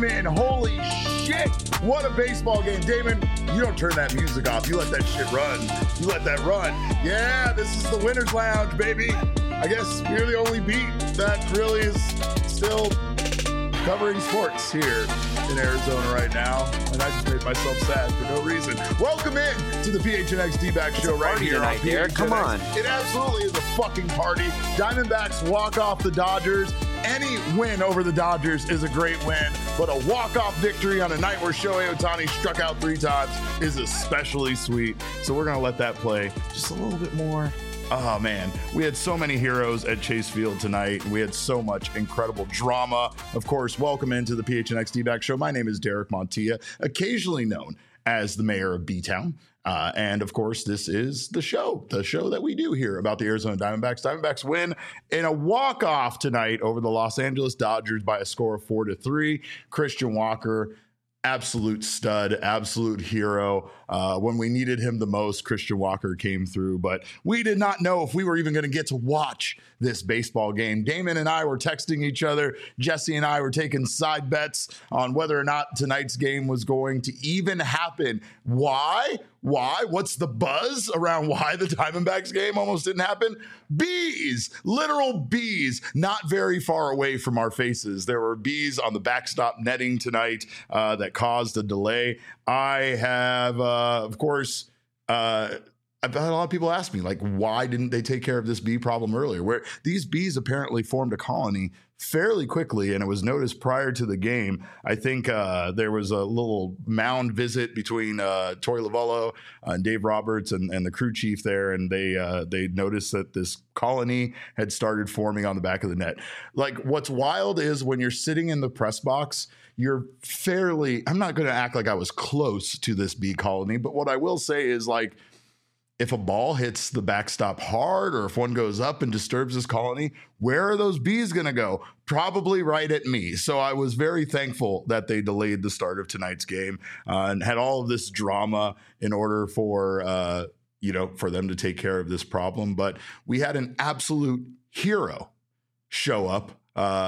in. Holy shit, what a baseball game. Damon, you don't turn that music off. You let that shit run. You let that run. Yeah, this is the Winner's Lounge, baby. I guess we're the only beat that really is still covering sports here in Arizona right now, and I just made myself sad for no reason. Welcome in to the PHNX D-Back Show right here on PHNX. Come on. It absolutely is a fucking party. Diamondbacks walk off the Dodgers. Any win over the Dodgers is a great win, but a walk-off victory on a night where Shohei Ohtani struck out 3 times is especially sweet. So we're going to let that play just a little bit more. Oh, man, we had so many heroes at Chase Field tonight. We had so much incredible drama. Of course, welcome into the PHNX D-Back Show. My name is Derek Montilla, occasionally known as the mayor of B-Town. And, of course, this is the show that we do here about the Arizona Diamondbacks. Diamondbacks win in a walk-off tonight over the Los Angeles Dodgers by a score of 4-3. Christian Walker, absolute stud, absolute hero. When we needed him the most, Christian Walker came through, but we did not know if we were even going to get to watch this baseball game. Damon and I were texting each other. Jesse and I were taking side bets on whether or not tonight's game was going to even happen. Why? What's the buzz around why the Diamondbacks game almost didn't happen? Bees, literal bees, not very far away from our faces. There were bees on the backstop netting tonight that caused a delay. I have, of course, I've had a lot of people ask me, like, why didn't they take care of this bee problem earlier? Where these bees apparently formed a colony fairly quickly, and it was noticed prior to the game. I think there was a little mound visit between Torey Lovullo and Dave Roberts and the crew chief there, and they noticed that this colony had started forming on the back of the net. Like, what's wild is when you're sitting in the press box, you're fairly, I'm not going to act like I was close to this bee colony, but what I will say is, like, if a ball hits the backstop hard or if one goes up and disturbs this colony, where are those bees going to go? Probably right at me. So I was very thankful that they delayed the start of tonight's game and had all of this drama in order for, for them to take care of this problem. But we had an absolute hero show up,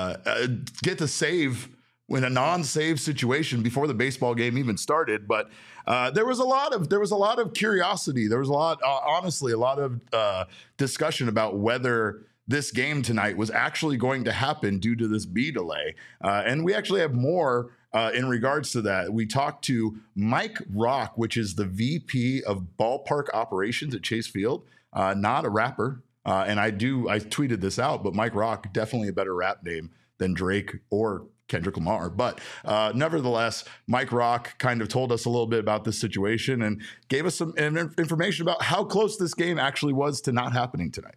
get to save in a non-save situation before the baseball game even started. But there was a lot of curiosity. There was honestly a lot of discussion about whether this game tonight was actually going to happen due to this bee delay. And we actually have more in regards to that. We talked to Mike Rock, which is the VP of ballpark operations at Chase Field, not a rapper. And I tweeted this out, but Mike Rock, definitely a better rap name than Drake or Kendrick Lamar. But nevertheless, Mike Rock kind of told us a little bit about this situation and gave us some information about how close this game actually was to not happening tonight.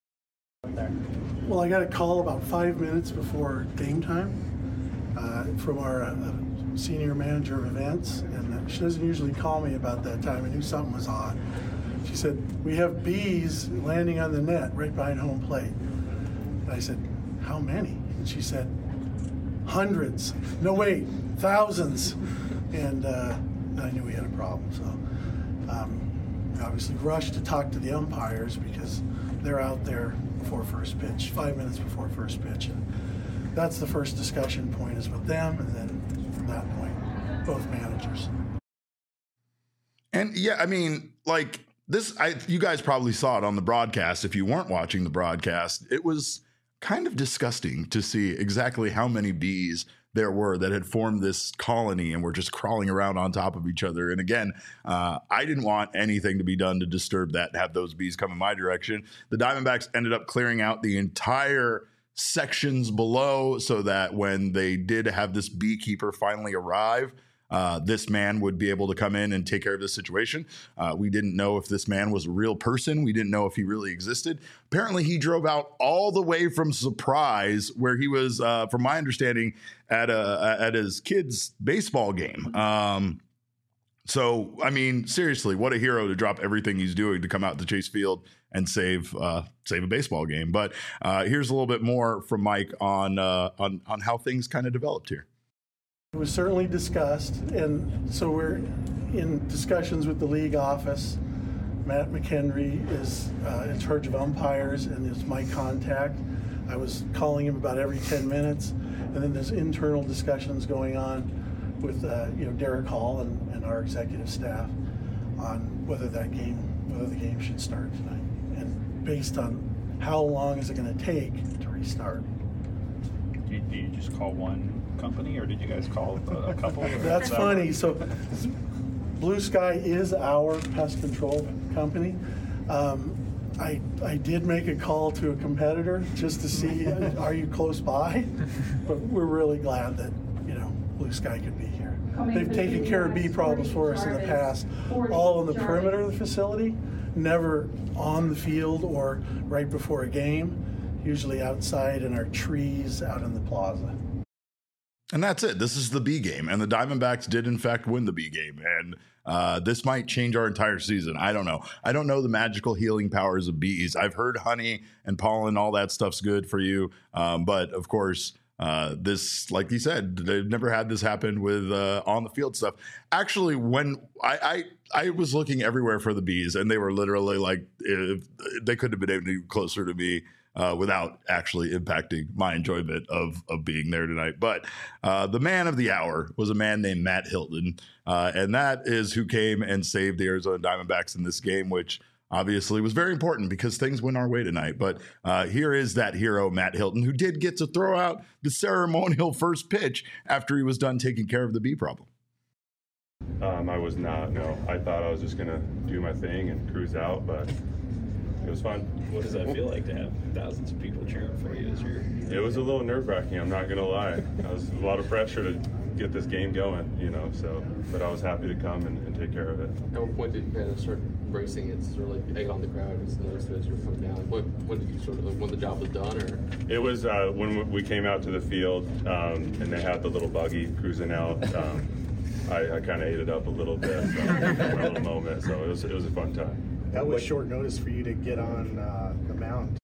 Well, I got a call about 5 minutes before game time from our senior manager of events, and she doesn't usually call me about that time. I knew something was odd. She said, "We have bees landing on the net right behind home plate." And I said, "How many?" And she said, "Hundreds. No, wait, thousands." And I knew we had a problem. So I obviously rushed to talk to the umpires because they're out there before first pitch, 5 minutes before first pitch. And that's the first discussion point is with them. And then from that point, both managers. And yeah, I mean, like this, you guys probably saw it on the broadcast. If you weren't watching the broadcast, it was kind of disgusting to see exactly how many bees there were that had formed this colony and were just crawling around on top of each other. And again, I didn't want anything to be done to disturb that and have those bees come in my direction. The Diamondbacks ended up clearing out the entire sections below so that when they did have this beekeeper finally arrive, this man would be able to come in and take care of this situation. We didn't know if this man was a real person. We didn't know if he really existed. Apparently, he drove out all the way from Surprise, where he was, from my understanding, at his kid's baseball game. So, I mean, seriously, what a hero to drop everything he's doing to come out to Chase Field and save a baseball game. But here's a little bit more from Mike on how things kind of developed here. It was certainly discussed, and so we're in discussions with the league office. Matt McHenry is in charge of umpires and is my contact. I was calling him about every 10 minutes, and then there's internal discussions going on with Derek Hall and our executive staff on whether the game should start tonight, and based on how long is it going to take to restart. Do you just call one company, or did you guys call a couple? That's funny. So Blue Sky is our pest control company. I did make a call to a competitor just to see, are you close by? But we're really glad that, Blue Sky could be here. They've taken care of bee problems for us in the past, all on the perimeter of the facility, never on the field or right before a game, usually outside in our trees out in the plaza. And that's it. This is the B game. And the Diamondbacks did, in fact, win the B game. And this might change our entire season. I don't know. I don't know the magical healing powers of bees. I've heard honey and pollen, all that stuff's good for you. But, of course, this, like you said, they've never had this happen with on the field stuff. Actually, when I was looking everywhere for the bees, and they were literally like, they couldn't have been any closer to me. Without actually impacting my enjoyment of being there tonight. But the man of the hour was a man named Matt Hilton, and that is who came and saved the Arizona Diamondbacks in this game, which obviously was very important because things went our way tonight. But here is that hero, Matt Hilton, who did get to throw out the ceremonial first pitch after he was done taking care of the bee problem. I was not, no. I thought I was just going to do my thing and cruise out, but it was fun. What does that feel like to have thousands of people cheering for you this year? It was a little nerve-wracking, I'm not going to lie. It was a lot of pressure to get this game going, but I was happy to come and take care of it. At what point did you kind of start embracing it, sort of like egg on the crowd as you were coming down? When did you sort of, when the job was done? Or it was when we came out to the field and they had the little buggy cruising out. I kind of ate it up a little bit for a little moment, so it was a fun time. That was short notice for you to get on the mound.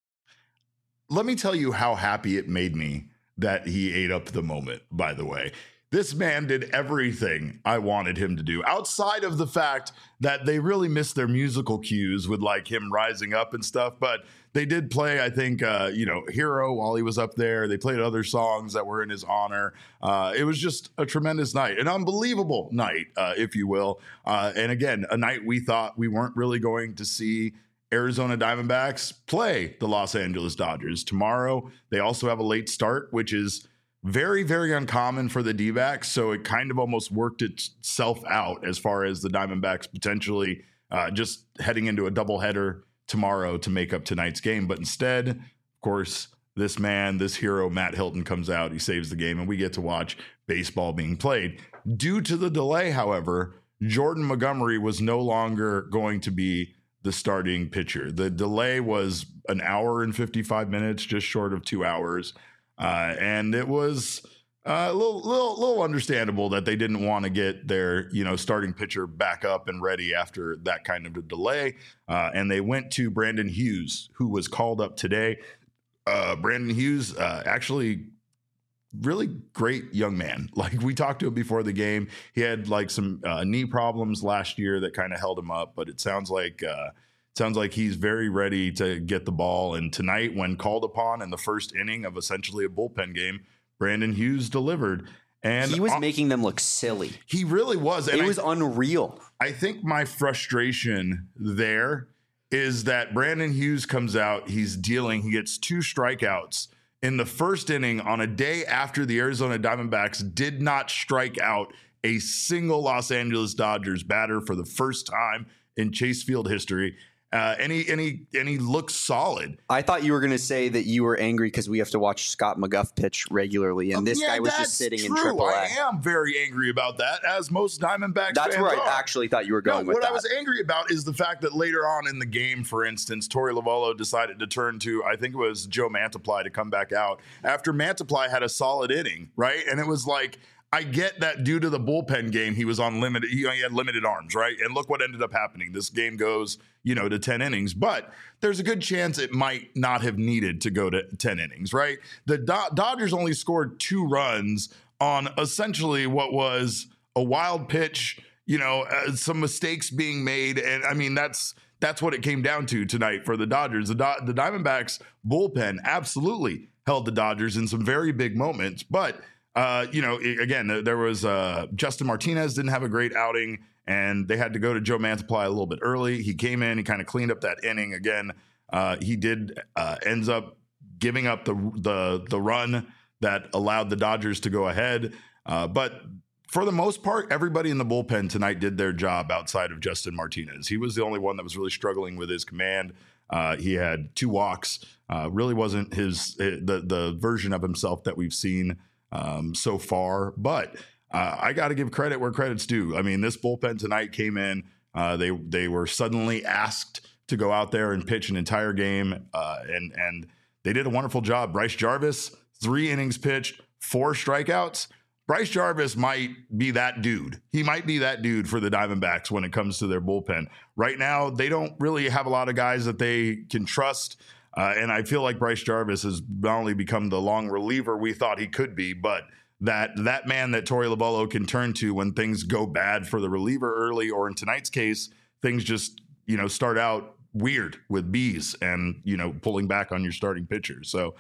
Let me tell you how happy it made me that he ate up the moment, by the way. This man did everything I wanted him to do, outside of the fact that they really missed their musical cues with like him rising up and stuff. But they did play, I think, Hero while he was up there. They played other songs that were in his honor. It was just a tremendous night, an unbelievable night, if you will. And again, a night we thought we weren't really going to see Arizona Diamondbacks play the Los Angeles Dodgers. Tomorrow, they also have a late start, which is very, very uncommon for the D-backs, so it kind of almost worked itself out as far as the Diamondbacks potentially just heading into a doubleheader tomorrow to make up tonight's game. But instead, of course, this man, this hero, Matt Hilton, comes out, he saves the game, and we get to watch baseball being played. Due to the delay, however, Jordan Montgomery was no longer going to be the starting pitcher. The delay was an hour and 55 minutes, just short of 2 hours. And it was a little understandable that they didn't want to get their, starting pitcher back up and ready after that kind of a delay. And they went to Brandon Hughes, who was called up today. Brandon Hughes, actually really great young man. Like we talked to him before the game. He had like some knee problems last year that kind of held him up, but it sounds like he's very ready to get the ball. And tonight, when called upon in the first inning of essentially a bullpen game, Brandon Hughes delivered. And he was making them look silly. He really was. And it was unreal. I think my frustration there is that Brandon Hughes comes out, he gets 2 strikeouts in the first inning on a day after the Arizona Diamondbacks did not strike out a single Los Angeles Dodgers batter for the first time in Chase Field history. And he looks solid. I thought you were going to say that you were angry because we have to watch Scott McGough pitch regularly, and this guy was just sitting in AAA. I am very angry about that, as most Diamondbacks That's fans where are. I actually thought you were going with what that. I was angry about is the fact that later on in the game, for instance, Torey Lovullo decided to turn to, I think it was Joe Mantiply to come back out after Mantiply had a solid inning, right? And it was like, I get that due to the bullpen game, he was on limited. He had limited arms, right? And look what ended up happening. This game goes, to 10 innings, but there's a good chance it might not have needed to go to 10 innings, right? The Dodgers only scored 2 runs on essentially what was a wild pitch some mistakes being made. And I mean, that's what it came down to tonight for the Dodgers. The Diamondbacks bullpen absolutely held the Dodgers in some very big moments. But, again, there was Justin Martinez didn't have a great outing, and they had to go to Joe Mantiply a little bit early. He came in, he kind of cleaned up that inning again. He did ends up giving up the run that allowed the Dodgers to go ahead. But for the most part, everybody in the bullpen tonight did their job outside of Justin Martinez. He was the only one that was really struggling with his command. He had 2 walks. Really wasn't the version of himself that we've seen so far. But I got to give credit where credit's due. I mean, this bullpen tonight came in. They were suddenly asked to go out there and pitch an entire game, and they did a wonderful job. Bryce Jarvis, 3 innings pitched, 4 strikeouts. Bryce Jarvis might be that dude. He might be that dude for the Diamondbacks when it comes to their bullpen. Right now, they don't really have a lot of guys that they can trust. And I feel like Bryce Jarvis has not only become the long reliever we thought he could be, but that man that Torey Lovullo can turn to when things go bad for the reliever early, or in tonight's case, things just, start out weird with bees and, pulling back on your starting pitcher. So,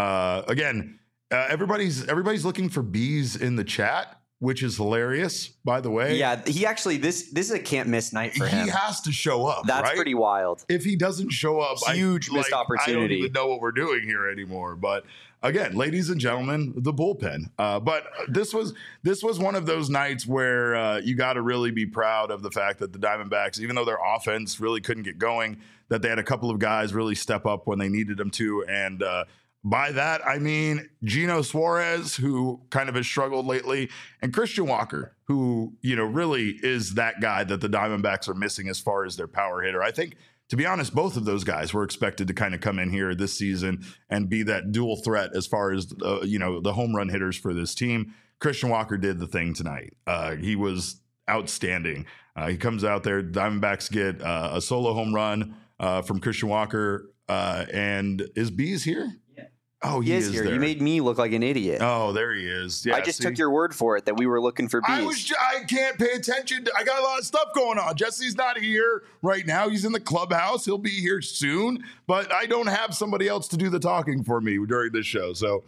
again, everybody's looking for bees in the chat, which is hilarious, by the way. Yeah, he actually this is a can't miss night for him. He has to show up. That's right? pretty wild. If he doesn't show up, huge missed opportunity. I don't even know what we're doing here anymore. But again, ladies and gentlemen, the bullpen. But this was one of those nights where you got to really be proud of the fact that the Diamondbacks, even though their offense really couldn't get going, that they had a couple of guys really step up when they needed them to. And by that, I mean Gino Suarez, who kind of has struggled lately, and Christian Walker, who, really is that guy that the Diamondbacks are missing as far as their power hitter. I think, to be honest, both of those guys were expected to kind of come in here this season and be that dual threat as far as, the home run hitters for this team. Christian Walker did the thing tonight. He was outstanding. He comes out there, Diamondbacks get a solo home run from Christian Walker. And is Bees here? Oh, he is here. there. You made me look like an idiot. Oh, there he is. Yeah, I just took your word for it that we were looking for bees. I can't pay attention. I got a lot of stuff going on. Jesse's not here right now. He's in the clubhouse. He'll be here soon. But I don't have somebody else to do the talking for me during this show. So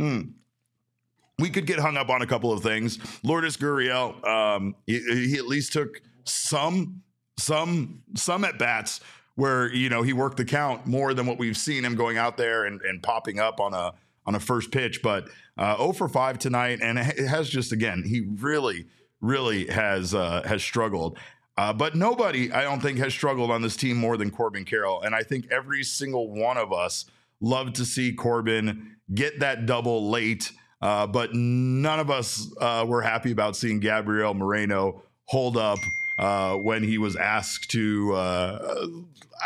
we could get hung up on a couple of things. Lourdes Gurriel, he at least took some at-bats where, he worked the count more than what we've seen him going out there and popping up on a first pitch. But 0 for 5 tonight, and it has just, again, he really, really has struggled. But nobody, I don't think, has struggled on this team more than Corbin Carroll. And I think every single one of us loved to see Corbin get that double late. But none of us were happy about seeing Gabriel Moreno hold up when he was asked to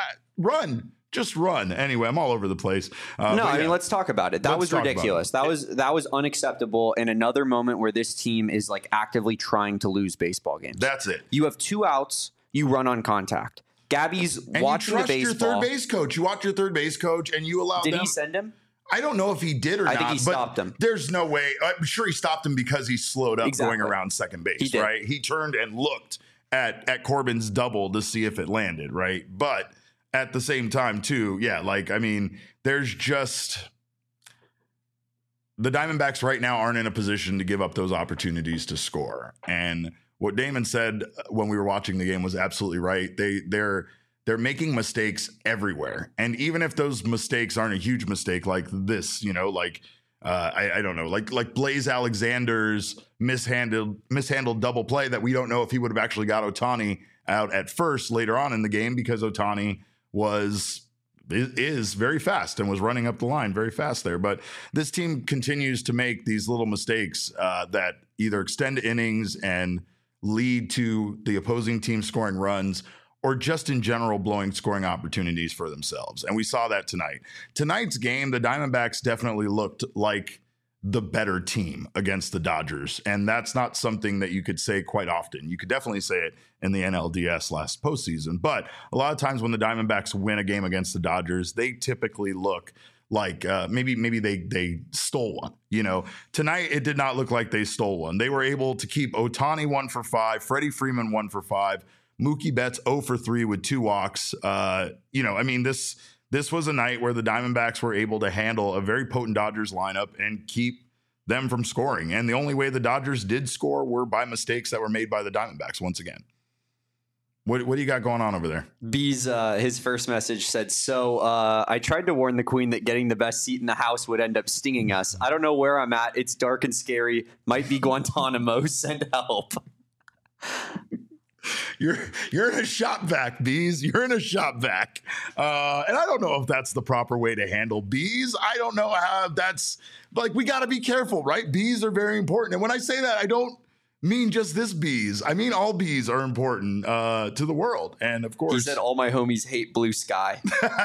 just run. Anyway, I'm all over the place. I mean, let's talk about it. That was ridiculous. That was unacceptable. And another moment where this team is actively trying to lose baseball games. That's it. You have 2 outs. You run on contact. Gabby's watching the baseball. You trust your third base coach. You watch your third base coach, and you allow them. Did he send him? I don't know if he did or not. I think he stopped him. There's no way. I'm sure he stopped him because he slowed up going around second base, right? He turned and looked at Corbin's double to see if it landed, right? But at the same time, too, there's just the Diamondbacks right now aren't in a position to give up those opportunities to score. And what Damon said when we were watching the game was absolutely right. They're making mistakes everywhere. And even if those mistakes aren't a huge mistake like this, I don't know, like Blaze Alexander's mishandled double play that we don't know if he would have actually got Ohtani out at first later on in the game, because Ohtani is very fast and was running up the line very fast there. But this team continues to make these little mistakes that either extend innings and lead to the opposing team scoring runs, or just in general blowing scoring opportunities for themselves. And we saw that tonight. Tonight's game, the Diamondbacks definitely looked like the better team against the Dodgers. And that's not something that you could say quite often. You could definitely say it in the NLDS last postseason. But a lot of times when the Diamondbacks win a game against the Dodgers, they typically look like maybe they stole one. You know, tonight it did not look like they stole one. They were able to keep Ohtani 1 for 5, Freddie Freeman 1 for 5, Mookie Betts 0 for 3 with 2 walks. You know, I mean, this was a night where the Diamondbacks were able to handle a very potent Dodgers lineup and keep them from scoring. And the only way the Dodgers did score were by mistakes that were made by the Diamondbacks once again. What do you got going on over there? Bees, his first message said, I tried to warn the Queen that getting the best seat in the house would end up stinging us. I don't know where I'm at. It's dark and scary. Might be Guantanamo. Send help. You're in a shop vac, Bees. You're in a shop vac. And I don't know if that's the proper way to handle bees. I don't know how that's like, we got to be careful, right? Bees are very important. And when I say that, I don't mean just this bees. I mean all bees are important to the world. And of course, he said all my homies hate blue sky.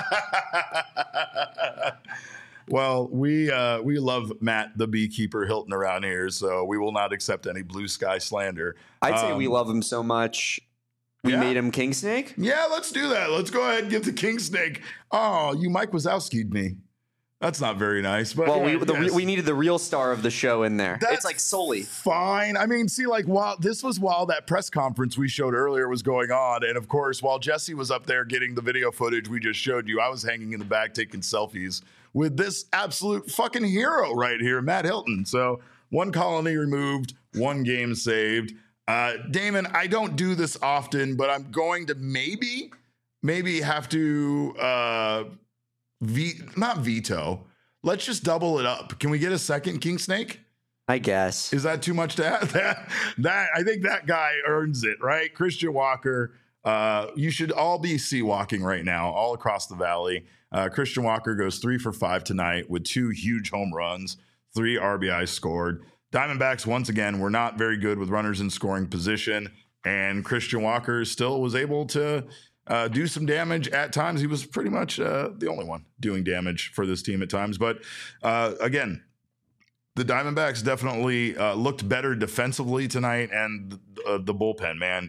Well, we love Matt the beekeeper Hilton around here, so we will not accept any blue sky slander. I'd say we love him so much we made him King Snake. Yeah, let's do that. Let's go ahead and get the King Snake. Oh, you Mike Wazowski'd me. That's not very nice. But well, we needed the real star of the show in there. It's like Sully. Fine. I mean, see, like while that press conference we showed earlier was going on, and of course, while Jesse was up there getting the video footage we just showed you, I was hanging in the back taking selfies with this absolute fucking hero right here, Matt Hilton. So 1 colony removed, 1 game saved. Damon, I don't do this often, but I'm going to maybe have to not veto. Let's just double it up. Can we get a second King Snake? I guess. Is that too much to add? That I think that guy earns it, right? Christian Walker. You should all be sea walking right now, all across the valley. Christian Walker goes 3 for 5 tonight with 2 huge home runs, 3 RBIs scored. Diamondbacks, once again, were not very good with runners in scoring position, and Christian Walker still was able to do some damage at times. He was pretty much the only one doing damage for this team at times. But again, the Diamondbacks definitely looked better defensively tonight, and the bullpen, man,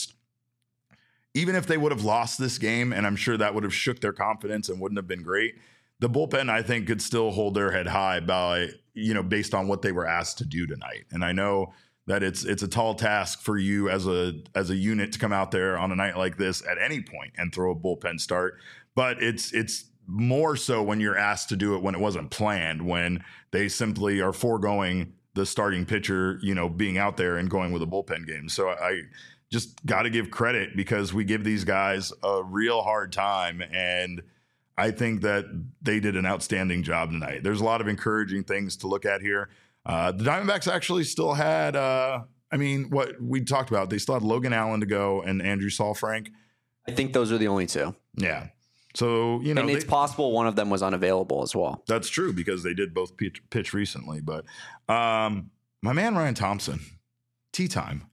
even if they would have lost this game, and I'm sure that would have shook their confidence and wouldn't have been great, the bullpen, I think, could still hold their head high by, based on what they were asked to do tonight. And I know that it's a tall task for you as a unit to come out there on a night like this at any point and throw a bullpen start. But it's more so when you're asked to do it when it wasn't planned, when they simply are foregoing the starting pitcher, being out there and going with a bullpen game. So I just got to give credit, because we give these guys a real hard time, and I think that they did an outstanding job tonight. There's a lot of encouraging things to look at here. The Diamondbacks actually still had, what we talked about, they still had Logan Allen to go and Andrew Saalfrank. I think those are the only 2. Yeah. So, and it's possible one of them was unavailable as well. That's true, because they did both pitch recently. But my man, Ryan Thompson, tea time.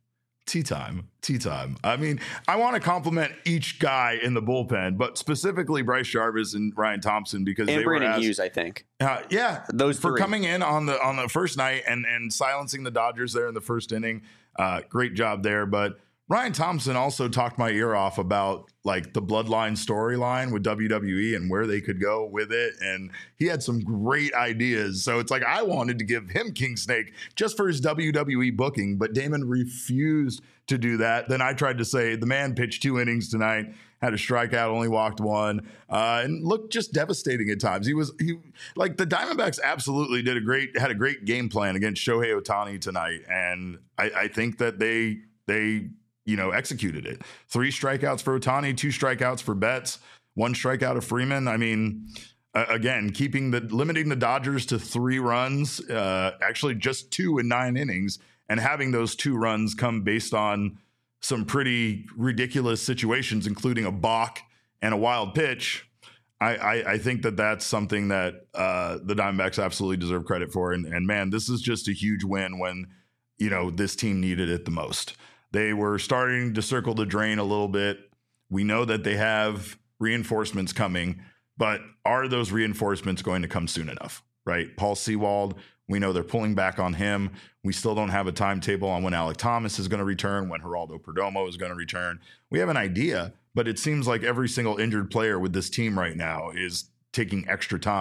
I mean, I want to compliment each guy in the bullpen, but specifically Bryce Jarvis and Ryan Thompson, because and they Brandon were asked, Hughes, I think. Those for 3. coming in on the first night and silencing the Dodgers there in the first inning. Great job there. But Ryan Thompson also talked my ear off about like the Bloodline storyline with WWE and where they could go with it. And he had some great ideas. So it's like, I wanted to give him King Snake just for his WWE booking, but Damon refused to do that. Then I tried to say the man pitched 2 innings tonight, had a strikeout, only walked 1, and looked just devastating at times. He like the Diamondbacks absolutely had a great game plan against Shohei Ohtani tonight. And I think that they executed it. 3 strikeouts for Ohtani, 2 strikeouts for Betts, 1 strikeout of Freeman. I mean, again, limiting the Dodgers to 3 runs, actually just 2 in 9 innings, and having those 2 runs come based on some pretty ridiculous situations, including a balk and a wild pitch. I think that that's something that the Diamondbacks absolutely deserve credit for. And man, this is just a huge win when, this team needed it the most. They were starting to circle the drain a little bit. We know that they have reinforcements coming, but are those reinforcements going to come soon enough, right? Paul Sewald, we know they're pulling back on him. We still don't have a timetable on when Alek Thomas is going to return, when Geraldo Perdomo is going to return. We have an idea, but it seems like every single injured player with this team right now is taking extra time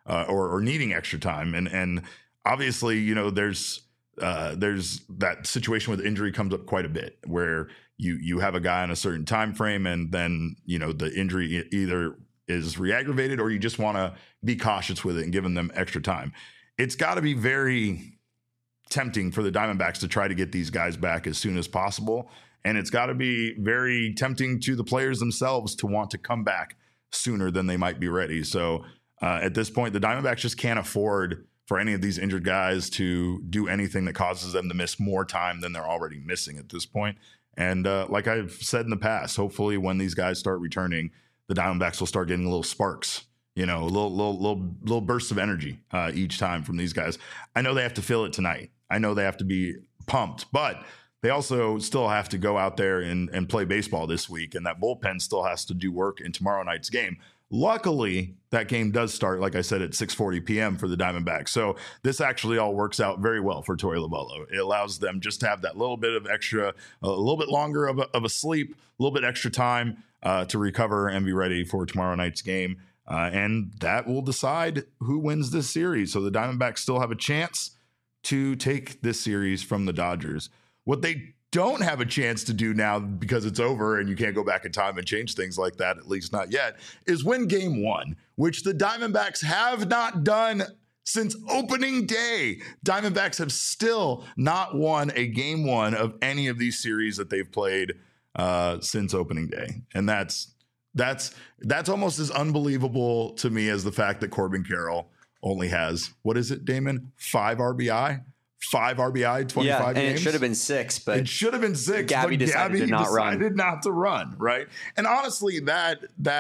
or needing extra time. And obviously, you know, there's that situation with injury comes up quite a bit where you have a guy on a certain time frame, and then, you know, the injury either is re-aggravated or you just want to be cautious with it and giving them extra time. It's got to be very tempting for the Diamondbacks to try to get these guys back as soon as possible. And it's got to be very tempting to the players themselves to want to come back sooner than they might be ready. So at this point, the Diamondbacks just can't afford for any of these injured guys to do anything that causes them to miss more time than they're already missing at this point. And like I've said in the past, hopefully when these guys start returning, the Diamondbacks will start getting little sparks, you know, little bursts of energy each time from these guys. I know they have to feel it tonight. I know they have to be pumped, but they also still have to go out there and play baseball this week. And that bullpen still has to do work in tomorrow night's game. Luckily, that game does start, like I said, at 6:40 p.m. for the Diamondbacks. So this actually all works out very well for Torey Lovullo. It allows them just to have that little bit of extra, a little bit longer of a sleep, a little bit extra time to recover and be ready for tomorrow night's game. And that will decide who wins this series. So the Diamondbacks still have a chance to take this series from the Dodgers. What they don't have a chance to do now, because it's over and you can't go back in time and change things like that, at least not yet, is win game one, which the Diamondbacks have not done since opening day. Diamondbacks have still not won a game one of any of these series that they've played since opening day. And that's almost as unbelievable to me as the fact that Corbin Carroll only has, what is it, Damon? 5 RBI, 25 and games. It should have been 6, but it should have been 6. Gabby decided not to run, right? And honestly, that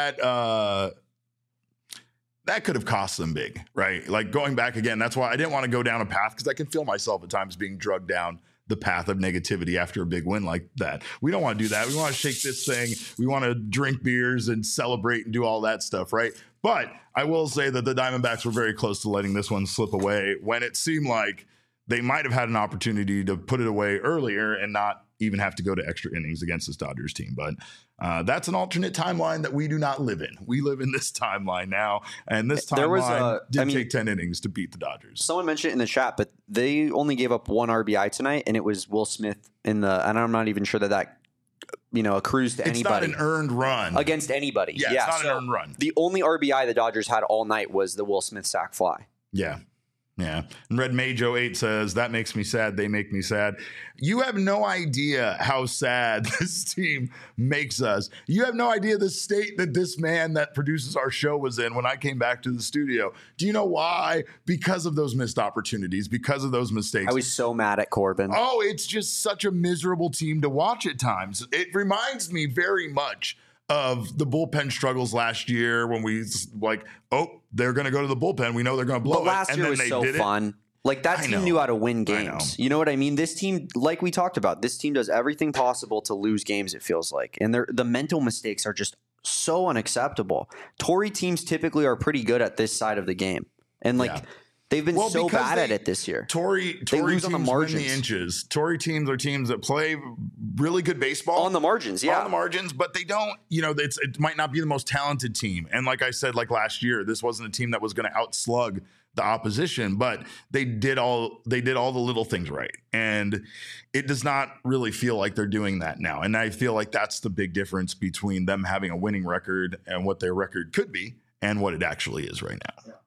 could have cost them big, right? Like going back again, that's why I didn't want to go down a path, because I can feel myself at times being drugged down the path of negativity after a big win like that. We don't want to do that. We want to shake this thing. We want to drink beers and celebrate and do all that stuff, right? But I will say that the Diamondbacks were very close to letting this one slip away when it seemed like they might have had an opportunity to put it away earlier and not even have to go to extra innings against this Dodgers team. But that's an alternate timeline that we do not live in. We live in this timeline now, and this timeline did take 10 innings to beat the Dodgers. Someone mentioned it in the chat, but they only gave up 1 RBI tonight, and it was Will Smith and I'm not even sure that accrues to anybody. It's not an earned run. Against anybody. Yeah, it's not an earned run. The only RBI the Dodgers had all night was the Will Smith sac fly. Yeah. Yeah. And Red Majo 8 says, that makes me sad. They make me sad. You have no idea how sad this team makes us. You have no idea the state that this man that produces our show was in when I came back to the studio. Do you know why? Because of those missed opportunities, because of those mistakes. I was so mad at Corbin. Oh, it's just such a miserable team to watch at times. It reminds me very much of the bullpen struggles last year when we they're going to go to the bullpen. We know they're going to blow it. But last year was so fun. Like that team knew how to win games. You know what I mean? This team, like we talked about, this team does everything possible to lose games, it feels like. And the mental mistakes are just so unacceptable. Torey teams typically are pretty good at this side of the game. And they've been so bad at it this year. Torey teams on the margins. Win the inches. Torey teams are teams that play really good baseball. On the margins, yeah. On the margins, but they don't, it might not be the most talented team. And like I said, like last year, this wasn't a team that was going to outslug the opposition, but they did all the little things right. And it does not really feel like they're doing that now. And I feel like that's the big difference between them having a winning record and what their record could be and what it actually is right now. Yeah.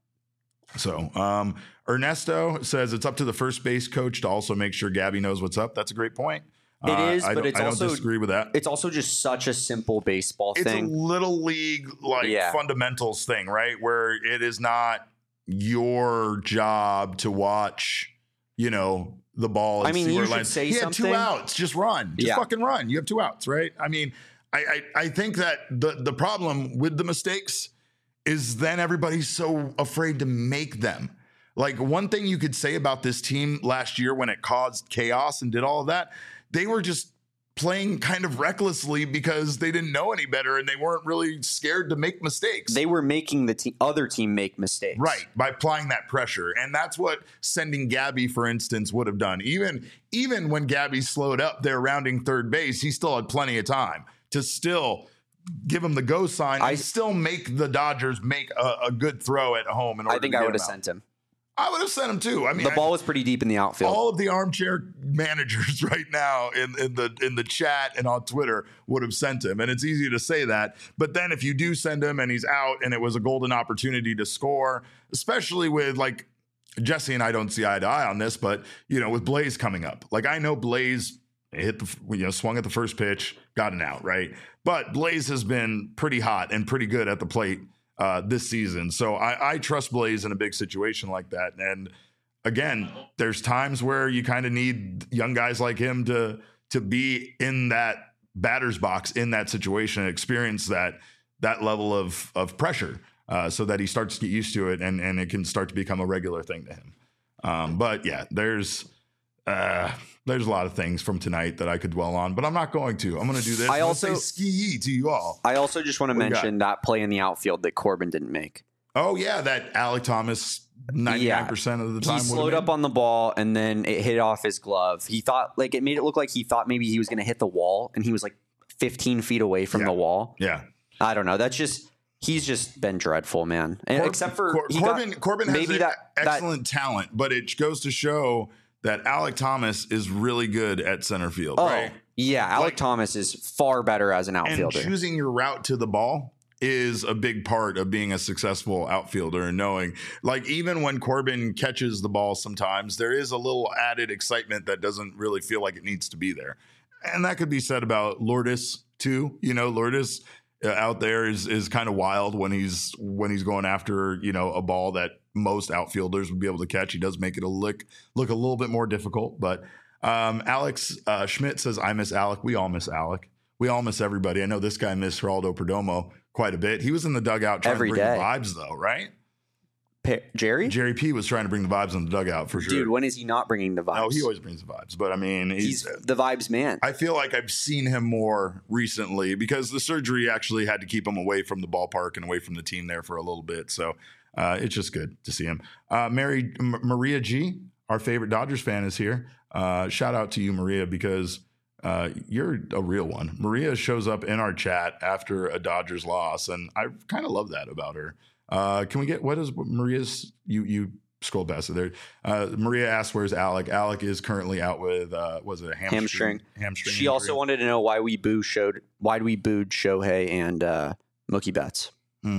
So Ernesto says it's up to the first base coach to also make sure Gabby knows what's up. That's a great point. It is, but I don't disagree with that. It's also just such a simple baseball thing. It's a little league fundamentals thing, right? Where it is not your job to watch, the ball. And see where it lands. Say he had 2 outs. Just run. Just fucking run. You have 2 outs, right? I mean, I think that the problem with the mistakes is then everybody's so afraid to make them. Like one thing you could say about this team last year when it caused chaos and did all of that, they were just playing kind of recklessly because they didn't know any better and they weren't really scared to make mistakes. They were making the other team make mistakes. Right, by applying that pressure. And that's what sending Gabby, for instance, would have done. Even when Gabby slowed up there rounding third base, he still had plenty of time to still give him the go sign and still make the Dodgers make a good throw at home. I think I would have sent him. I would have sent him too. I mean, the ball was pretty deep in the outfield. All of the armchair managers right now in the chat and on Twitter would have sent him. And it's easy to say that. But then if you do send him and he's out and it was a golden opportunity to score, especially with like Jesse and I don't see eye to eye on this, but with Blaze coming up, like I know Blaze hit swung at the first pitch, got an out, right? But Blaze has been pretty hot and pretty good at the plate this season. So I trust Blaze in a big situation like that. And again, there's times where you kind of need young guys like him to be in that batter's box in that situation and experience that level of pressure so that he starts to get used to it and it can start to become a regular thing to him. But yeah, there's a lot of things from tonight that I could dwell on, but I'm not going to. I'm going to do this. I also say ski to you all. I also just want to mention that play in the outfield that Corbin didn't make. Oh yeah, that Alek Thomas 99% of the time. He slowed up on the ball and then it hit off his glove. He thought it made it look like he thought maybe he was going to hit the wall and he was like 15 feet away from the wall. Yeah. I don't know. He's just been dreadful, man. And except for Corbin has excellent talent, but it goes to show that Alek Thomas is really good at center field, right? Yeah, Alek Thomas is far better as an outfielder. And choosing your route to the ball is a big part of being a successful outfielder and knowing, like, even when Corbin catches the ball sometimes, there is a little added excitement that doesn't really feel like it needs to be there. And that could be said about Lourdes too. Lourdes out there is kind of wild when he's going after, a ball that most outfielders would be able to catch. He does make it look a little bit more difficult, but Alex Schmidt says, I miss Alek. We all miss Alek. We all miss everybody. I know this guy missed Geraldo Perdomo quite a bit. He was in the dugout trying to bring the vibes though, right? Jerry P was trying to bring the vibes in the dugout for sure. Dude, when is he not bringing the vibes? No, he always brings the vibes. But I mean, he's the vibes man. I feel like I've seen him more recently because the surgery actually had to keep him away from the ballpark and away from the team there for a little bit. So it's just good to see him. Maria G, our favorite Dodgers fan, is here. Shout out to you, Maria, because you're a real one. Maria shows up in our chat after a Dodgers loss, and I kind of love that about her. Can we get, what is Maria's, you scroll past it there. Maria asked, where's Alek? Alek is currently out with, was it a hamstring? She also wanted to know why we booed Shohei and Mookie Betts.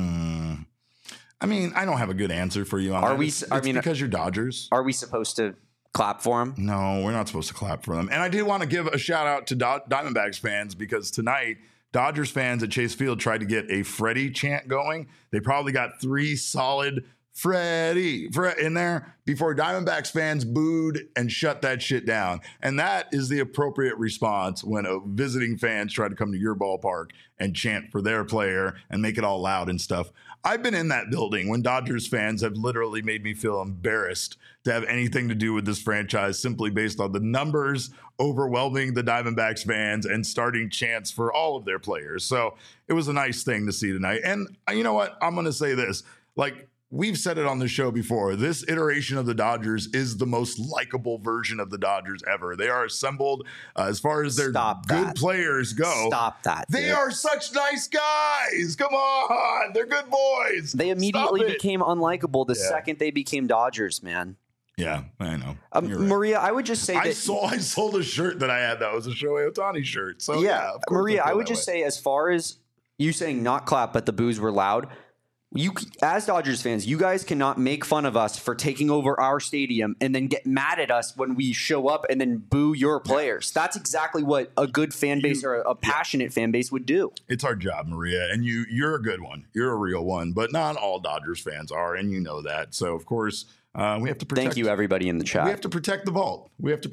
I mean, I don't have a good answer for you on that. It's because you're Dodgers. Are we supposed to clap for him? No, we're not supposed to clap for them. And I did want to give a shout out to Diamondbacks fans because tonight, Dodgers fans at Chase Field tried to get a Freddie chant going. They probably got 3 solid Freddie in there before Diamondbacks fans booed and shut that shit down. And that is the appropriate response when a visiting fans try to come to your ballpark and chant for their player and make it all loud and stuff. I've been in that building when Dodgers fans have literally made me feel embarrassed to have anything to do with this franchise simply based on the numbers overwhelming the Diamondbacks fans and starting chants for all of their players. So it was a nice thing to see tonight. And you know what? I'm going to say this. Like, we've said it on the show before. This iteration of the Dodgers is the most likable version of the Dodgers ever. They are assembled as far as their good players go. Stop that. They are such nice guys. Come on. They're good boys. They immediately became unlikable the second they became Dodgers, man. Yeah, I know. Maria, I would just say I sold a shirt that I had that was a Shohei Ohtani shirt. So yeah, Maria, I would just say, as far as you saying not clap, but the boos were loud, you, as Dodgers fans, you guys cannot make fun of us for taking over our stadium and then get mad at us when we show up and then boo your players. That's exactly what a good fan base or a passionate fan base would do. It's our job, Maria, and you're a good one. You're a real one, but not all Dodgers fans are, and you know that. So, of course, we have to protect. Thank you, everybody in the chat. We have to protect the vault.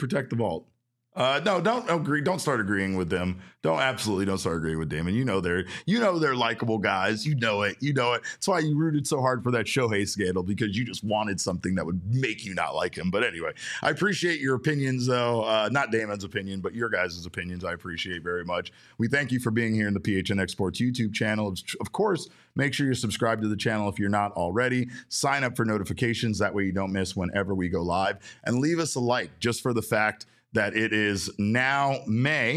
No, don't agree. Don't start agreeing with them. Don't start agreeing with Damon. You know they're likable guys. You know it. That's why you rooted so hard for that Shohei scandal, because you just wanted something that would make you not like him. But anyway, I appreciate your opinions, though. Not Damon's opinion, but your guys' opinions. I appreciate very much. We thank you for being here in the PHNX Sports YouTube channel. Of course, make sure you're subscribed to the channel if you're not already. Sign up for notifications. That way you don't miss whenever we go live. And leave us a like just for the fact that it is now May.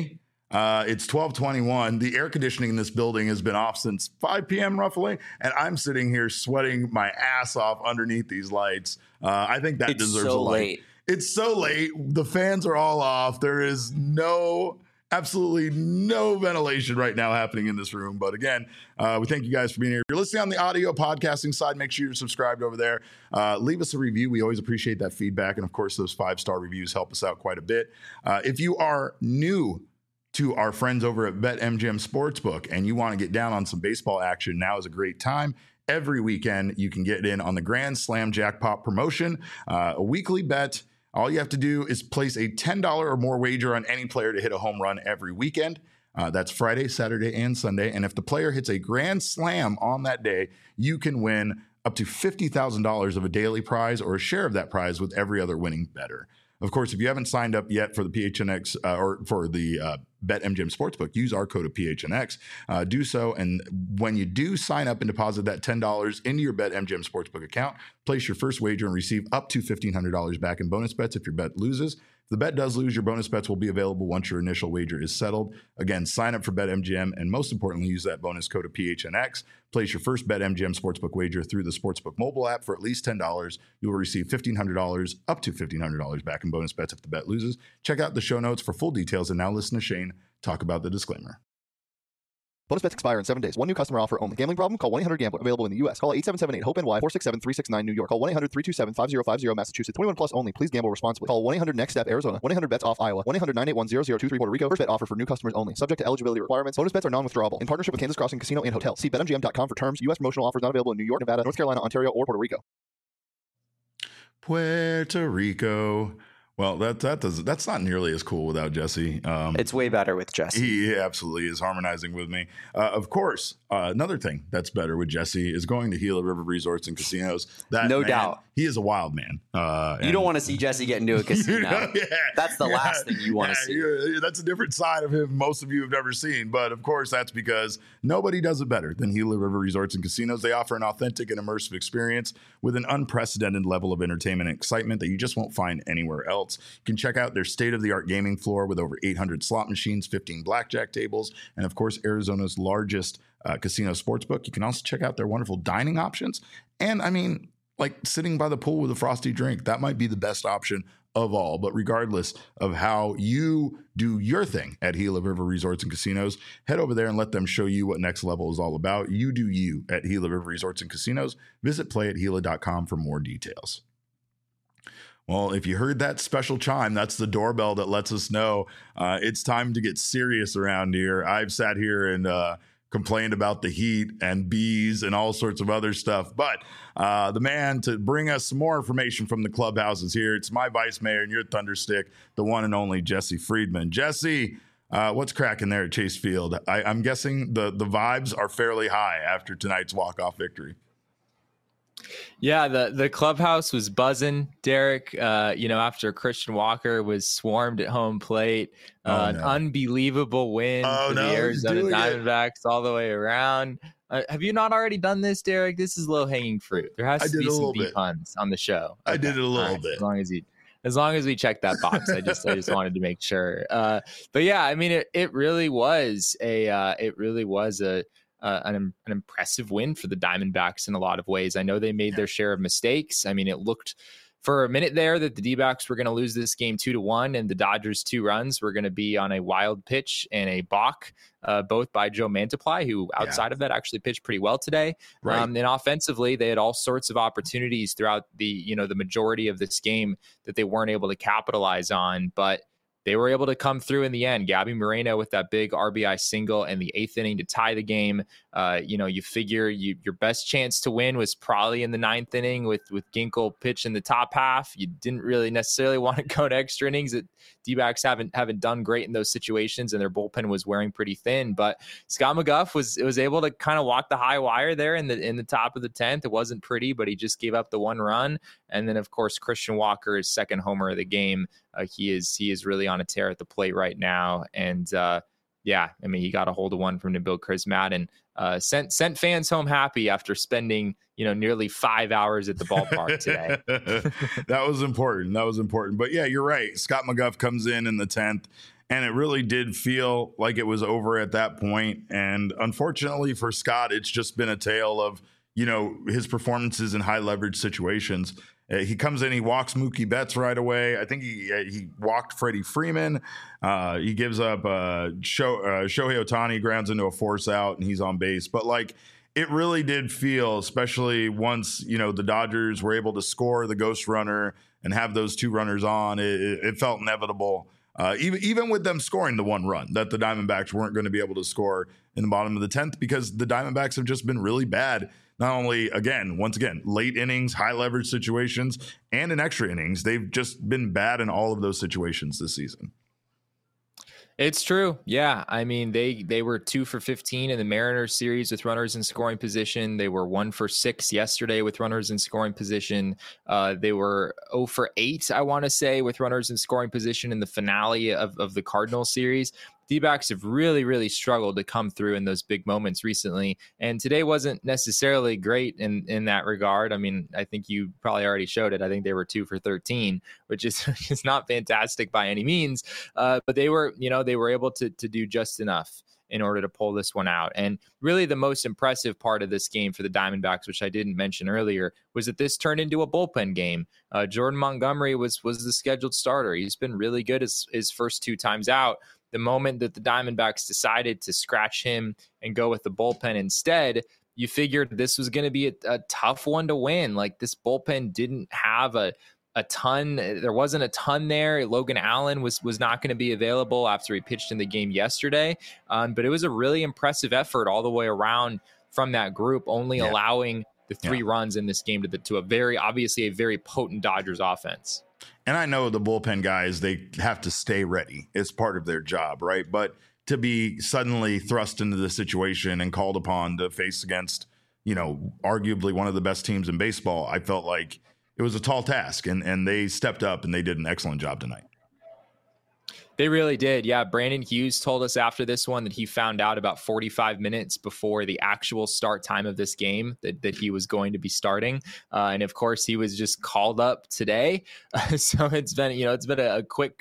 It's 12:21. The air conditioning in this building has been off since 5 p.m. roughly, and I'm sitting here sweating my ass off underneath these lights. I think that deserves a like. Late. It's so late. The fans are all off. There is absolutely no ventilation right now happening in this room. But again, we thank you guys for being here. If you're listening on the audio podcasting side, make sure you're subscribed over there. Leave us a review. We always appreciate that feedback. And of course, those 5-star reviews help us out quite a bit. If you are new to our friends over at BetMGM Sportsbook and you want to get down on some baseball action, now is a great time. Every weekend, you can get in on the Grand Slam Jackpot promotion, a weekly bet. All you have to do is place a $10 or more wager on any player to hit a home run every weekend. That's Friday, Saturday, and Sunday. And if the player hits a grand slam on that day, you can win up to $50,000 of a daily prize or a share of that prize with every other winning bettor. Of course, if you haven't signed up yet for the PHNX or for the BetMGM Sportsbook, use our code of PHNX. Do so, and when you do sign up and deposit that $10 into your BetMGM Sportsbook account, place your first wager and receive up to $1,500 back in bonus bets if your bet loses. If the bet does lose, your bonus bets will be available once your initial wager is settled. Again, sign up for BetMGM, and most importantly, use that bonus code of PHNX. Place your first BetMGM Sportsbook wager through the Sportsbook mobile app for at least $10. You will receive $1,500, up to $1,500 back in bonus bets if the bet loses. Check out the show notes for full details, and now listen to Shane talk about the disclaimer. Bonus bets expire in 7 days. One new customer offer only. Gambling problem? Call 1-800-GAMBLER. Available in the U.S. Call 877-8-HOPE-NY 467-369 New York. Call 1-800-327-5050 Massachusetts. 21 plus only. Please gamble responsibly. Call 1-800-NEXT-STEP Arizona. 1-800-BETS-OFF Iowa. 1-800-981-0023 Puerto Rico. First bet offer for new customers only. Subject to eligibility requirements. Bonus bets are non-withdrawable. In partnership with Kansas Crossing Casino and Hotel. See BetMGM.com for terms. U.S. promotional offers not available in New York, Nevada, North Carolina, Ontario, or Puerto Rico. Puerto Rico. Well, that's not nearly as cool without Jesse. It's way better with Jesse. He absolutely is harmonizing with me. Of course, another thing that's better with Jesse is going to Gila River Resorts and Casinos. That no man, doubt. He is a wild man. You don't want to see Jesse get into a casino. That's the last thing you want to see. That's a different side of him most of you have never seen. But of course, that's because nobody does it better than Gila River Resorts and Casinos. They offer an authentic and immersive experience with an unprecedented level of entertainment and excitement that you just won't find anywhere else. You can check out their state-of-the-art gaming floor with over 800 slot machines, 15 blackjack tables, and of course, Arizona's largest casino sportsbook. You can also check out their wonderful dining options. And I mean, like sitting by the pool with a frosty drink, that might be the best option of all. But regardless of how you do your thing at Gila River Resorts and Casinos, head over there and let them show you what next level is all about. You do you at Gila River Resorts and Casinos. Visit playathila.com for more details. Well, if you heard that special chime, that's the doorbell that lets us know it's time to get serious around here. I've sat here and complained about the heat and bees and all sorts of other stuff. But the man to bring us some more information from the clubhouse is here. It's my vice mayor and your thunderstick, the one and only Jesse Friedman. Jesse, what's cracking there at Chase Field? I'm guessing the vibes are fairly high after tonight's walk-off victory. Yeah, the clubhouse was buzzing, Derek. After Christian Walker was swarmed at home plate, an unbelievable win for the Arizona Diamondbacks all the way around. Have you not already done this, Derek? This is low-hanging fruit. There has to be some B puns on the show. Okay. I did it a little bit. As long as we check that box, I just wanted to make sure. But yeah, I mean, it really was an impressive win for the Diamondbacks in a lot of ways. I know they made their share of mistakes. I mean, it looked for a minute there that the D-backs were going to lose this game 2-1, and the Dodgers' 2 runs were going to be on a wild pitch and a balk, both by Joe Mantiply, who outside of that actually pitched pretty well today. Right. And offensively, they had all sorts of opportunities throughout the majority of this game that they weren't able to capitalize on, but they were able to come through in the end. Gabby Moreno with that big RBI single in the 8th inning to tie the game. You figure your best chance to win was probably in the 9th inning with Ginkel pitch in the top half. You didn't really necessarily want to go to extra innings. D-backs haven't done great in those situations, and their bullpen was wearing pretty thin. But Scott McGough was able to kind of walk the high wire there in the top of the 10th. It wasn't pretty, but he just gave up the 1 run. And then, of course, Christian Walker is second homer of the game. He is really on a tear at the plate right now. And he got a hold of one from Nabil Krismat and sent fans home happy after spending nearly 5 hours at the ballpark today. That was important. But yeah, you're right. Scott McGough comes in the 10th And it really did feel like it was over at that point. And unfortunately for Scott, it's just been a tale of, his performances in high leverage situations. He comes in, he walks Mookie Betts right away. I think he walked Freddie Freeman. He gives up Shohei Ohtani, grounds into a force out, and he's on base. But it really did feel, especially once, the Dodgers were able to score the ghost runner and have those 2 runners on, it felt inevitable. Even with them scoring the 1 run, that the Diamondbacks weren't going to be able to score in the bottom of the 10th, because the Diamondbacks have just been really bad. Not only, once again, late innings, high leverage situations, and in extra innings. They've just been bad in all of those situations this season. It's true. Yeah. I mean, they were 2 for 15 in the Mariners series with runners in scoring position. They were 1 for 6 yesterday with runners in scoring position. They were 0 for 8, I want to say, with runners in scoring position in the finale of the Cardinals series. D-backs have really, really struggled to come through in those big moments recently. And today wasn't necessarily great in that regard. I mean, I think you probably already showed it. I think they were 2 for 13, which is not fantastic by any means. But they were able to do just enough in order to pull this one out. And really the most impressive part of this game for the Diamondbacks, which I didn't mention earlier, was that this turned into a bullpen game. Jordan Montgomery was the scheduled starter. He's been really good his first 2 times out. The moment that the Diamondbacks decided to scratch him and go with the bullpen instead, you figured this was going to be a tough one to win. This bullpen didn't have a ton. There wasn't a ton there. Logan Allen was not going to be available after he pitched in the game yesterday. But it was a really impressive effort all the way around from that group, only allowing the 3 runs in this game to a very potent Dodgers offense. And I know the bullpen guys, they have to stay ready. It's part of their job, right? But to be suddenly thrust into the situation and called upon to face against, arguably one of the best teams in baseball, I felt like it was a tall task. And they stepped up and they did an excellent job tonight. They really did. Yeah. Brandon Hughes told us after this one that he found out about 45 minutes before the actual start time of this game that he was going to be starting. And of course he was just called up today. So it's been a quick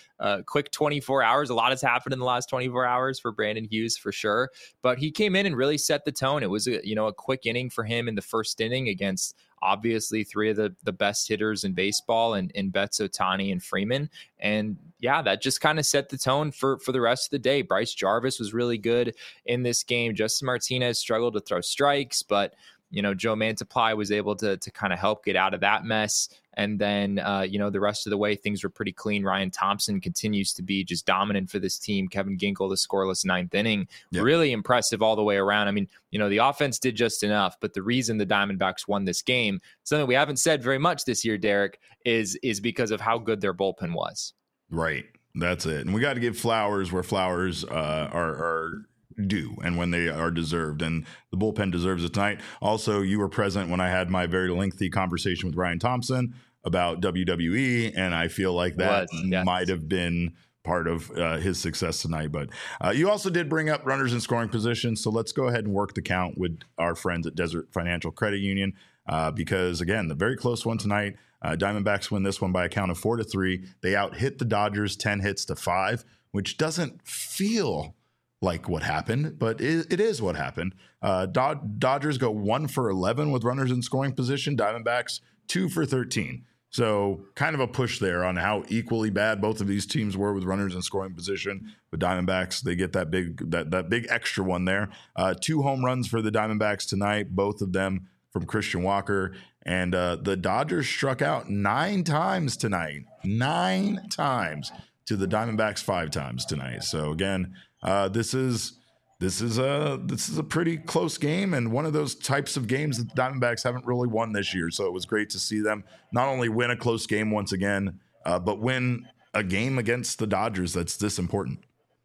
24 hours. A lot has happened in the last 24 hours for Brandon Hughes for sure, but he came in and really set the tone. It was a quick inning for him in the first inning against obviously 3 of the best hitters in baseball in Betts, Ohtani, and Freeman. And yeah, that just kind of set the tone for the rest of the day. Bryce Jarvis was really good in this game. Justin Martinez struggled to throw strikes, but Joe Mantiply was able to kind of help get out of that mess. And then, the rest of the way, things were pretty clean. Ryan Thompson continues to be just dominant for this team. Kevin Ginkel, the scoreless 9th inning, really impressive all the way around. I mean, the offense did just enough, but the reason the Diamondbacks won this game, something we haven't said very much this year, Derek, is because of how good their bullpen was. Right. That's it. And we got to give flowers where flowers are due and when they are deserved, and the bullpen deserves it tonight. Also, you were present when I had my very lengthy conversation with Ryan Thompson about WWE, and I feel like that might have been part of his success tonight. But you also did bring up runners in scoring position, so let's go ahead and work the count with our friends at Desert Financial Credit Union, because again, the very close one tonight. Diamondbacks win this one by a count of 4-3. They out-hit the Dodgers 10 hits to 5, which doesn't feel like what happened, but it is what happened. Dodgers go 1 for 11 with runners in scoring position. Diamondbacks 2 for 13. So kind of a push there on how equally bad both of these teams were with runners in scoring position. With Diamondbacks, they get that big extra one there. 2 home runs for the Diamondbacks tonight, both of them from Christian Walker. And the Dodgers struck out 9 times tonight. 9 times to the Diamondbacks 5 times tonight. So again, this is a pretty close game, and one of those types of games that the Diamondbacks haven't really won this year. So it was great to see them not only win a close game once again, but win a game against the Dodgers that's this important.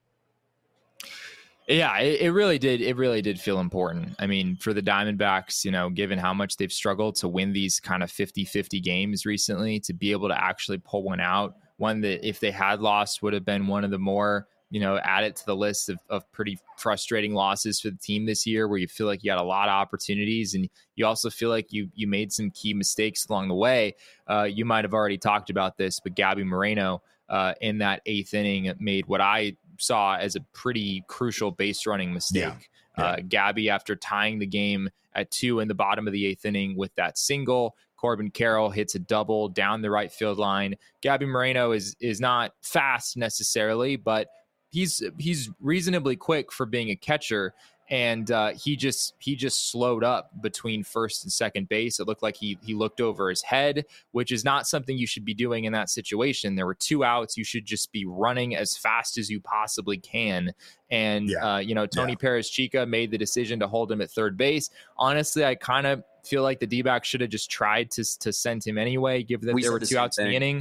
Yeah, it really did. It really did feel important. I mean, for the Diamondbacks, given how much they've struggled to win these kind of 50-50 games recently, to be able to actually pull one out, one that if they had lost would have been one of the more, add it to the list of pretty frustrating losses for the team this year, where you feel like you had a lot of opportunities and you also feel like you made some key mistakes along the way. You might have already talked about this, but Gabby Moreno in that 8th inning made what I saw as a pretty crucial base running mistake. Gabby, after tying the game at 2 in the bottom of the 8th inning with that single, Corbin Carroll hits a double down the right field line. Gabby Moreno is not fast necessarily, but he's reasonably quick for being a catcher. And he just slowed up between first and second base. It looked like he looked over his head, which is not something you should be doing in that situation. There were 2 outs. You should just be running as fast as you possibly can. And, Tony Perez Chica made the decision to hold him at third base. Honestly, I kind of feel like the D-backs should have just tried to send him anyway, given that there were 2 outs in the inning.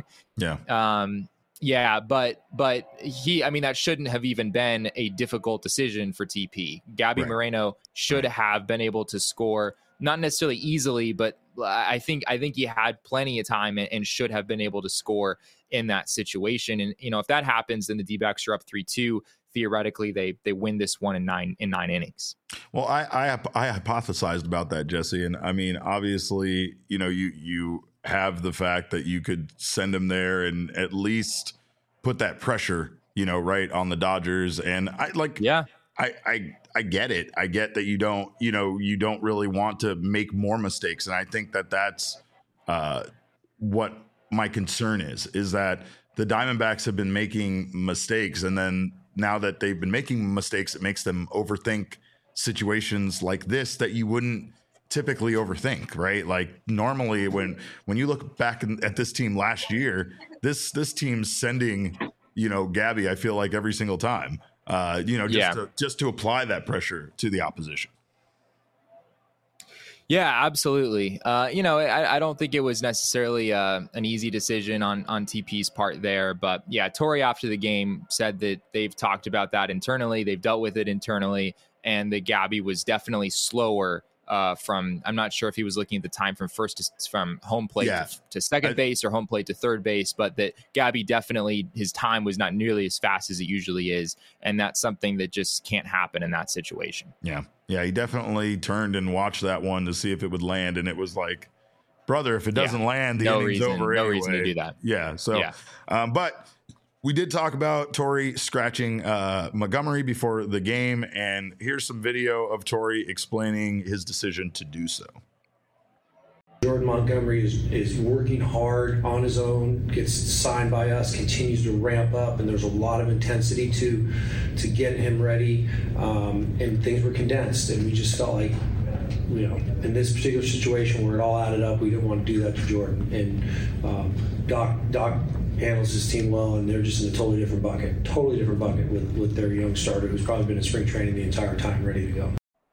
But that shouldn't have even been a difficult decision for TP. Gabby Moreno should have been able to score, not necessarily easily, but I think he had plenty of time and should have been able to score in that situation. And, if that happens, then the D-backs are up 3-2. Theoretically, they win this one in nine innings. Well, I hypothesized about that, Jesse. And I mean, obviously, you have the fact that you could send him there and at least put that pressure, right on the Dodgers. And I get it. I get that you don't really want to make more mistakes. And I think that that's what my concern is that the Diamondbacks have been making mistakes. And then now that they've been making mistakes, it makes them overthink situations like this that you wouldn't typically overthink, right? Like normally when you look back at this team last year, this team's sending, Gabby, I feel like every single time, just to apply that pressure to the opposition. Yeah, absolutely. I don't think it was necessarily an easy decision on TP's part there. But yeah, Torey after the game said that they've talked about that internally. They've dealt with it internally, and that Gabby was definitely slower I'm not sure if he was looking at the time from home plate to second base or home plate to third base, but that Gabby definitely, his time was not nearly as fast as it usually is. And that's something that just can't happen in that situation. Yeah. Yeah. He definitely turned and watched that one to see if it would land. And it was like, brother, if it doesn't land, the inning's over anyway. No reason to do that. Yeah. So, but we did talk about Torey scratching Montgomery before the game, and here's some video of Torey explaining his decision to do so. Jordan Montgomery is working hard on his own, gets signed by us, continues to ramp up, and there's a lot of intensity to get him ready, and things were condensed, and we just felt like, in this particular situation where it all added up, we didn't want to do that to Jordan. And Doc handles his team well, and they're just in a totally different bucket with their young starter who's probably been in spring training the entire time, ready to go.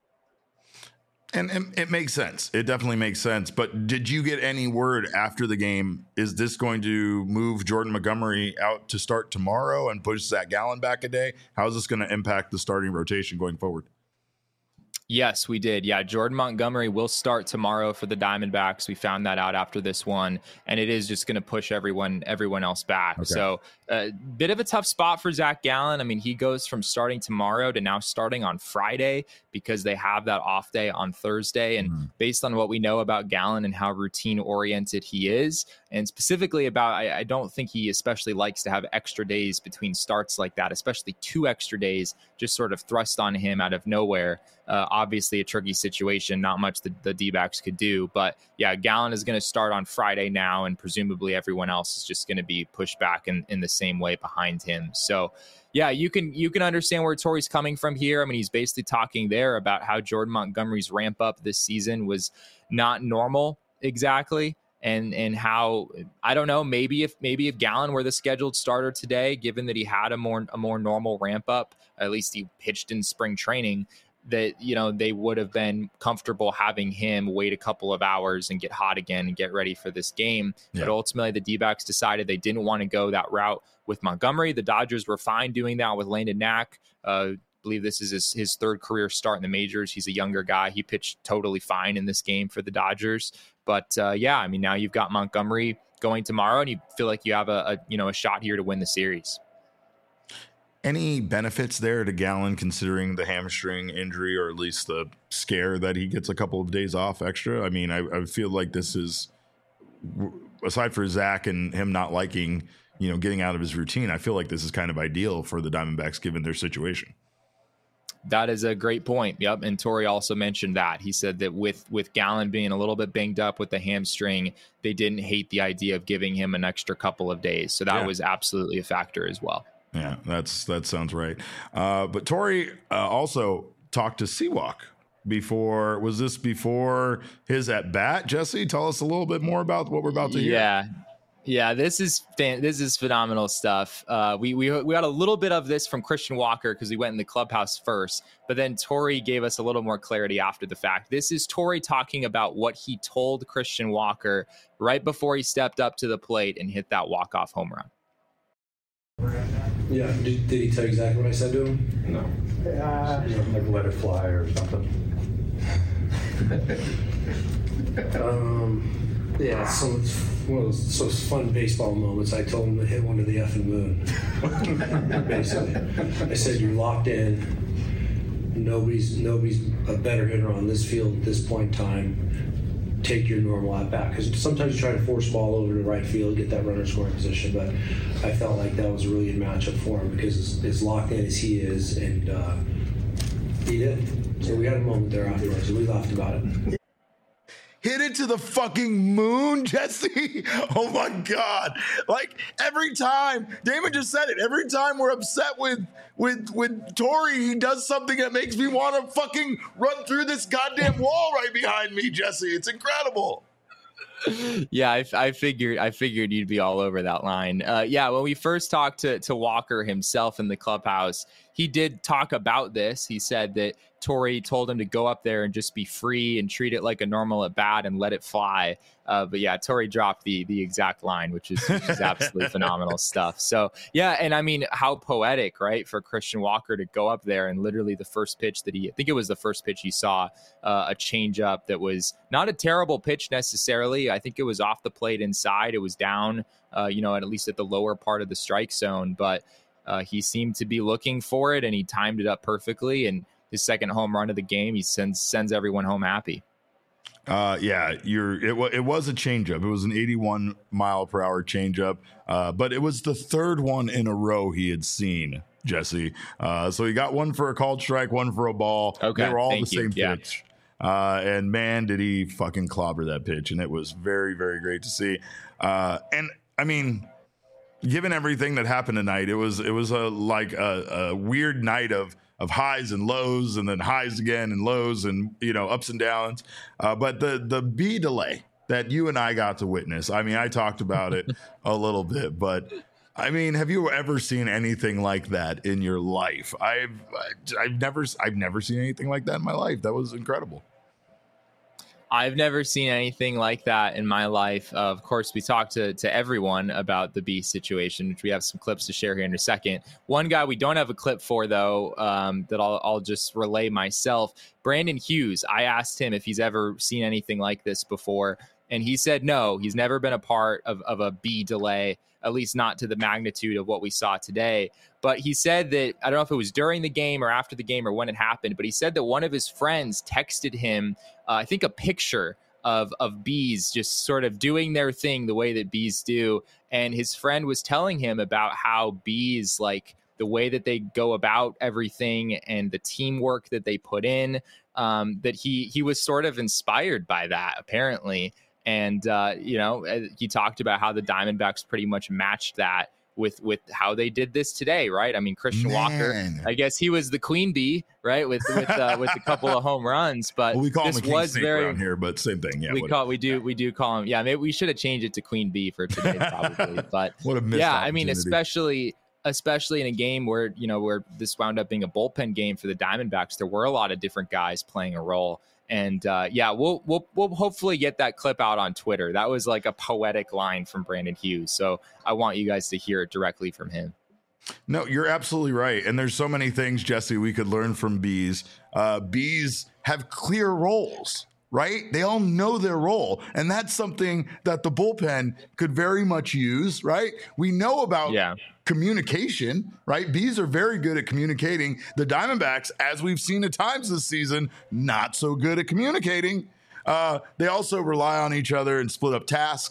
And it makes sense. It definitely makes sense. But did you get any word after the game? Is this going to move Jordan Montgomery out to start tomorrow and push Zach Gallen back a day? How is this going to impact the starting rotation going forward? Yes, we did. Yeah, Jordan Montgomery will start tomorrow for the Diamondbacks. We found that out after this one, and it is just going to push everyone else back. Okay. So a bit of a tough spot for Zach Gallen. I mean, he goes from starting tomorrow to now starting on Friday because they have that off day on Thursday. And based on what we know about Gallen and how routine oriented he is, and specifically about, I don't think he especially likes to have extra days between starts like that, especially 2 extra days just sort of thrust on him out of nowhere. Obviously a tricky situation, not much the D-backs could do, but yeah, Gallen is going to start on Friday now, and presumably everyone else is just going to be pushed back in the same way behind him. So yeah, you can understand where Torey's coming from here. I mean, he's basically talking there about how Jordan Montgomery's ramp up this season was not normal exactly. And how, I don't know, maybe if Gallen were the scheduled starter today, given that he had a more normal ramp up, at least he pitched in spring training, that, they would have been comfortable having him wait a couple of hours and get hot again and get ready for this game. Yeah. But ultimately the D-backs decided they didn't want to go that route with Montgomery. The Dodgers were fine doing that with Landon Knack. I believe this is his 3rd career start in the majors. He's a younger guy. He pitched totally fine in this game for the Dodgers. But I mean, now you've got Montgomery going tomorrow, and you feel like you have a shot here to win the series. Any benefits there to Gallen considering the hamstring injury, or at least the scare that he gets a couple of days off extra? I mean, I feel like this is, aside for Zach and him not liking getting out of his routine. I feel like this is kind of ideal for the Diamondbacks given their situation. That is a great point. Yep. And Torey also mentioned that. He said that with Gallen being a little bit banged up with the hamstring, they didn't hate the idea of giving him an extra couple of days. So that was absolutely a factor as well. Yeah, that sounds right. But Torey also talked to Seawalk before. Was this before his at bat? Jesse, tell us a little bit more about what we're about to hear. Yeah, this is phenomenal stuff. We got a little bit of this from Christian Walker because we went in the clubhouse first, but then Torey gave us a little more clarity after the fact. This is Torey talking about what he told Christian Walker right before he stepped up to the plate and hit that walk-off home run. Yeah, did he tell you exactly what I said to him? No. Like let it fly or something. Yeah, it's one of those fun baseball moments. I told him to hit one to the effing moon. Basically, I said you're locked in. Nobody's a better hitter on this field at this point in time. Take your normal at bat, because sometimes you try to force ball over to right field, get that runner scoring position. But I felt like that was a really good matchup for him because as locked in as he is, and he did. So we had a moment there afterwards, and we laughed about it. Hit it to the fucking moon, Jesse. Oh my God. Like every time, Damon just said it, every time we're upset with Torey, he does something that makes me want to fucking run through this goddamn wall right behind me, Jesse. It's incredible. Yeah, I figured you'd be all over that line. When we first talked to Walker himself in the clubhouse, he did talk about this. He said that Torey told him to go up there and just be free and treat it like a normal at bat and let it fly. But yeah, Torey dropped the exact line, which is absolutely phenomenal stuff. So yeah, and I mean, how poetic, right, for Christian Walker to go up there and literally the first pitch that I think it was the first pitch he saw, a changeup that was not a terrible pitch necessarily. I think it was off the plate inside. It was down, at least at the lower part of the strike zone, but he seemed to be looking for it and he timed it up perfectly. And his second home run of the game, he sends everyone home happy. It was a changeup. It was an 81 mile per hour changeup, but it was the third one in a row he had seen, Jesse. So he got one for a called strike, one for a ball. Okay, they were all the same pitch. And man, did he fucking clobber that pitch. And it was very, very great to see. And I mean, given everything that happened tonight, it was a weird night of highs and lows, and then highs again and lows, and ups and downs. But the B delay that you and I got to witness, I mean, I talked about it a little bit, but I mean, have you ever seen anything like that in your life? I've never seen anything like that in my life. That was incredible. I've never seen anything like that in my life. Of course, we talked to everyone about the B situation, which we have some clips to share here in a second. One guy we don't have a clip for, though, that I'll just relay myself. Brandon Hughes, I asked him if he's ever seen anything like this before, and he said no. He's never been a part of a B delay, at least not to the magnitude of what we saw today. But he said that, I don't know if it was during the game or after the game or when it happened, but he said that one of his friends texted him, I think, a picture of bees just sort of doing their thing the way that bees do. And his friend was telling him about how bees, like the way that they go about everything and the teamwork that they put in, that he was sort of inspired by that, apparently. And, he talked about how the Diamondbacks pretty much matched that with how they did this today, right? I mean, Christian Walker, I guess he was the queen bee, right? With a couple of home runs, but we call him a king was snake very around here, but same thing. Yeah, we do call him. Yeah, maybe we should have changed it to queen bee for today, probably. But what a missed I mean, opportunity. especially in a game where this wound up being a bullpen game for the Diamondbacks, there were a lot of different guys playing a role. And we'll hopefully get that clip out on Twitter. That was like a poetic line from Brandon Hughes. So I want you guys to hear it directly from him. No, you're absolutely right. And there's so many things, Jesse, we could learn from bees. Bees have clear roles, right? They all know their role. And that's something that the bullpen could very much use, right? We know about communication, right? Bees are very good at communicating. The Diamondbacks, as we've seen at times this season, not so good at communicating. They also rely on each other and split up tasks.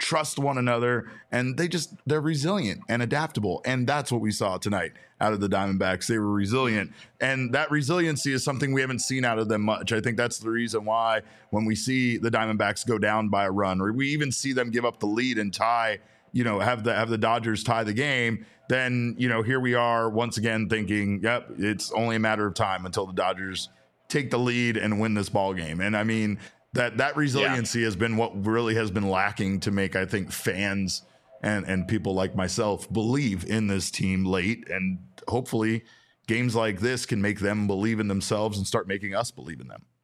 trust one another, and they're resilient and adaptable. And that's what we saw tonight out of the Diamondbacks. They were resilient, and that resiliency is something we haven't seen out of them much. I think that's the reason why when we see the Diamondbacks go down by a run, or we even see them give up the lead and tie, have the Dodgers tie the game, then, here we are once again thinking, yep, it's only a matter of time until the Dodgers take the lead and win this ball game. And I mean, that resiliency has been what really has been lacking to make, I think, fans and people like myself believe in this team late. And hopefully games like this can make them believe in themselves and start making us believe in them.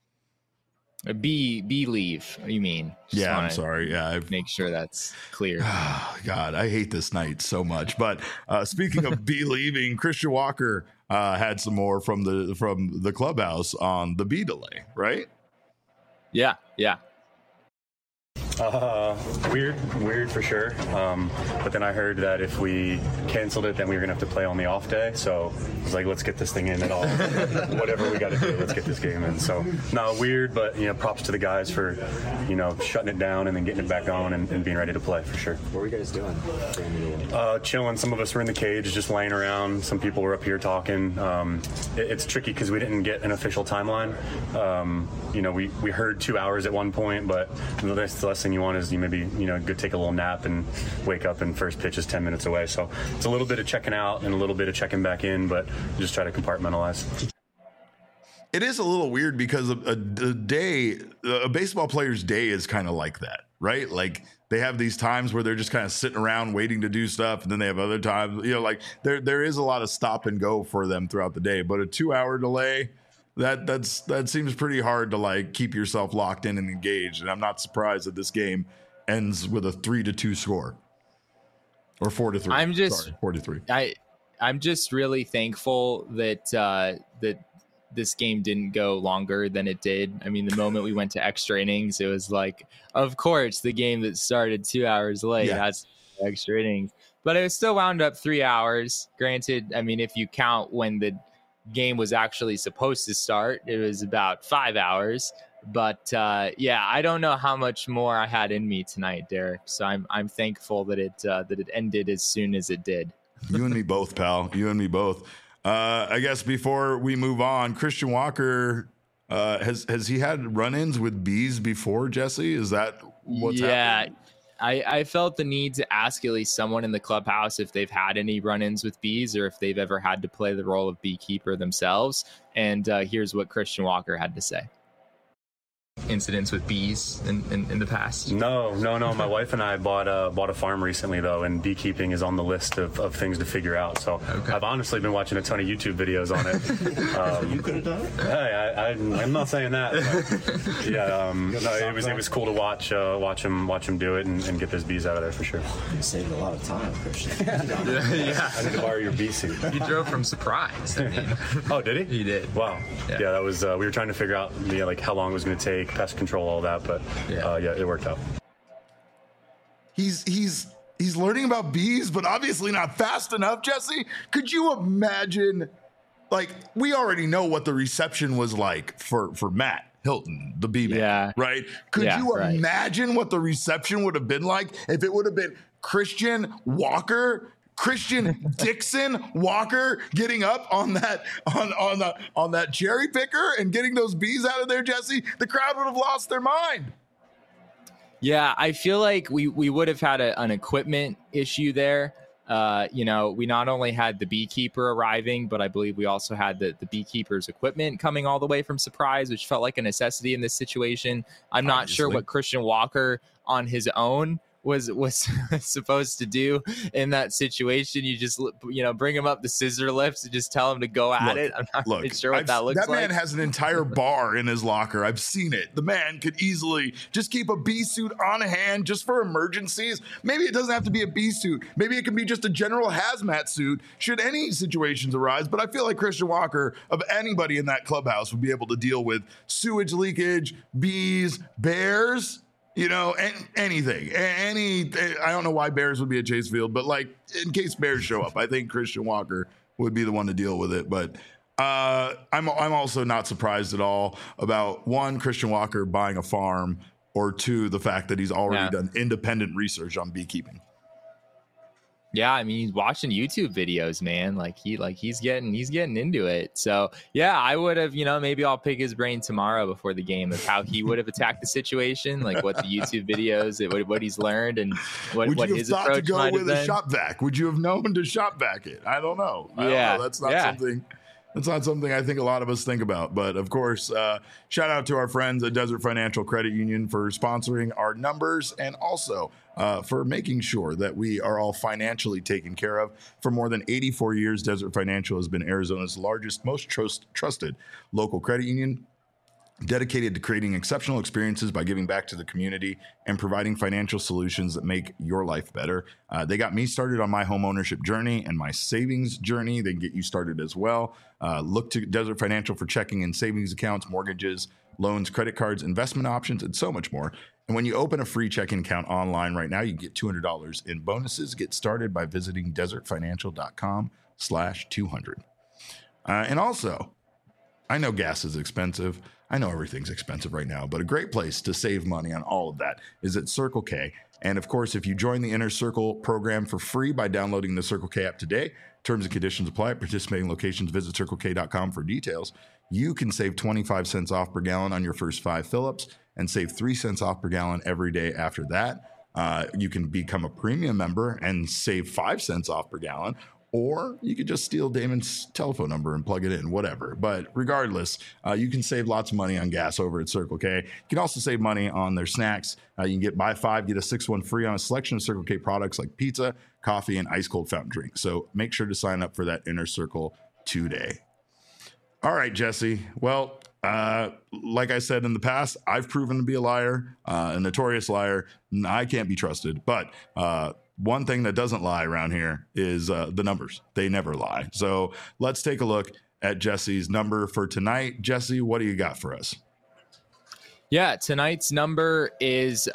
Believe, you mean? Yeah, I'm sorry. Yeah, make sure that's clear. God, I hate this night so much. But speaking of believing, Christian Walker had some more from the clubhouse on the B delay, right? Yeah. Weird for sure. But then I heard that if we canceled it, then we were gonna have to play on the off day. So I was like, let's get this thing in at all. Whatever we got to do, let's get this game in. So no, weird, but props to the guys for shutting it down and then getting it back on and being ready to play for sure. What were you guys doing? Chilling. Some of us were in the cage, just laying around. Some people were up here talking. It's tricky because we didn't get an official timeline. We heard 2 hours at one point, but the last thing you want is you maybe go take a little nap and wake up and first pitch is 10 minutes away. So it's a little bit of checking out and a little bit of checking back in, but just try to compartmentalize. It is a little weird because a baseball player's day is kind of like that, right? Like they have these times where they're just kind of sitting around waiting to do stuff, and then they have other times, like there is a lot of stop and go for them throughout the day. But a 2 hour delay, that seems pretty hard to like keep yourself locked in and engaged. And I'm not surprised that this game ends with a 3-2 score or 4-3. 4-3. I'm just really thankful that that this game didn't go longer than it did. I mean, the moment we went to extra innings, it was like, of course, the game that started 2 hours late has extra innings, but it was still wound up 3 hours. Granted, I mean, if you count when the game was actually supposed to start, it was about 5 hours. But I don't know how much more I had in me tonight, Derek. So I'm thankful that it ended as soon as it did. You and me both, pal. You and me both. I guess before we move on, Christian Walker has he had run-ins with bees before, Jesse? Is that what's happening? I felt the need to ask at least someone in the clubhouse if they've had any run-ins with bees or if they've ever had to play the role of beekeeper themselves. And here's what Christian Walker had to say. Incidents with bees in the past? No. My wife and I bought a farm recently, though, and beekeeping is on the list of things to figure out. So I've honestly been watching a ton of YouTube videos on it. You could have done it? Hey, I'm not saying that. But yeah, it was cool to watch him do it and get those bees out of there for sure. You saved a lot of time, Christian. Yeah. I need to borrow your bee suit. He drove from Surprise. I mean. Oh, did he? He did. Wow. Yeah, that was. We were trying to figure out how long it was going to take, pest control, all that, but it worked out. He's learning about bees, but obviously not fast enough. Jesse, could you imagine? Like, we already know what the reception was like for Matt Hilton, the bee man, right? Could you imagine what the reception would have been like if it would have been Christian Dixon Walker getting up on that cherry picker and getting those bees out of there, Jesse? The crowd would have lost their mind. Yeah, I feel like we would have had an equipment issue there. We not only had the beekeeper arriving, but I believe we also had the beekeeper's equipment coming all the way from Surprise, which felt like a necessity in this situation. I'm not sure what Christian Walker on his own was supposed to do in that situation. You just bring him up the scissor lifts and just tell him to go at it. I'm not really sure what that looks like. That man has an entire bar in his locker. I've seen it. The man could easily just keep a bee suit on hand just for emergencies. Maybe it doesn't have to be a bee suit. Maybe it can be just a general hazmat suit should any situations arise. But I feel like Christian Walker, of anybody in that clubhouse, would be able to deal with sewage leakage, bees, bears, anything. I don't know why bears would be at Chase Field, but like in case bears show up, I think Christian Walker would be the one to deal with it. But I'm also not surprised at all about Christian Walker buying a farm or two, the fact that he's already done independent research on beekeeping. Yeah, I mean, he's watching YouTube videos, man. He's getting into it. So yeah, I would have, maybe I'll pick his brain tomorrow before the game of how he would have attacked the situation, like what the YouTube videos, what he's learned, and what his approach might have been. Would you have thought to go with a shop vac? Would you have known to shop vac it? I don't know. That's not something. That's not something I think a lot of us think about. But of course, shout out to our friends at Desert Financial Credit Union for sponsoring our numbers and also for making sure that we are all financially taken care of. For more than 84 years, Desert Financial has been Arizona's largest, most trusted local credit union, dedicated to creating exceptional experiences by giving back to the community and providing financial solutions that make your life better. They got me started on my home ownership journey and my savings journey. They can get you started as well. Look to Desert Financial for checking and savings accounts, mortgages, loans, credit cards, investment options, and so much more. And when you open a free checking account online right now, you get $200 in bonuses. Get started by visiting desertfinancial.com/200. And also, I know gas is expensive. I know everything's expensive right now, but a great place to save money on all of that is at Circle K. And of course, if you join the Inner Circle program for free by downloading the Circle K app today, terms and conditions apply at participating locations. Visit CircleK.com for details. You can save 25 cents off per gallon on your first 5 fill-ups and save 3 cents off per gallon every day after that. You can become a premium member and save 5 cents off per gallon. Or you could just steal Damon's telephone number and plug it in, whatever. But regardless, you can save lots of money on gas over at Circle K. You can also save money on their snacks. You can buy 5, get a 6th one free on a selection of Circle K products like pizza, coffee, and ice cold fountain drinks. So make sure to sign up for that Inner Circle today. All right, Jesse. Well, like I said in the past, I've proven to be a liar, a notorious liar. I can't be trusted. But one thing that doesn't lie around here is the numbers. They never lie. So let's take a look at Jesse's number for tonight. Jesse, what do you got for us? Yeah, tonight's number is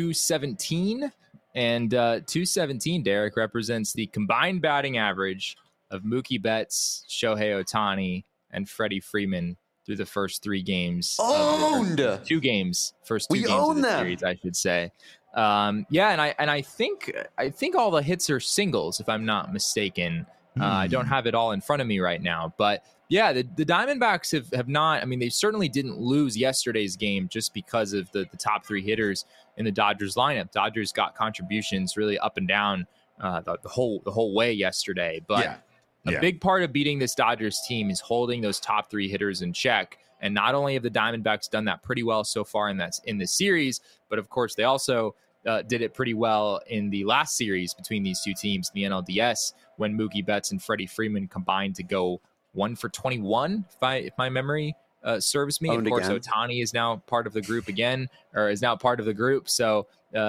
217. And 217, Derek, represents the combined batting average of Mookie Betts, Shohei Ohtani, and Freddie Freeman through the first 3 games. Owned! First 2 games of the series, I should say. And I think all the hits are singles, if I'm not mistaken. I don't have it all in front of me right now, but yeah, the Diamondbacks have not. I mean, they certainly didn't lose yesterday's game just because of the top 3 hitters in the Dodgers lineup. Dodgers got contributions really up and down the whole way yesterday, but a big part of beating this Dodgers team is holding those top 3 hitters in check. And not only have the Diamondbacks done that pretty well so far in this series, but of course they also did it pretty well in the last series between these 2 teams, the NLDS, when Mookie Betts and Freddie Freeman combined to go 1 for 21, if my memory serves me. Of course, Ohtani is now part of the group again, or is now part of the group. So,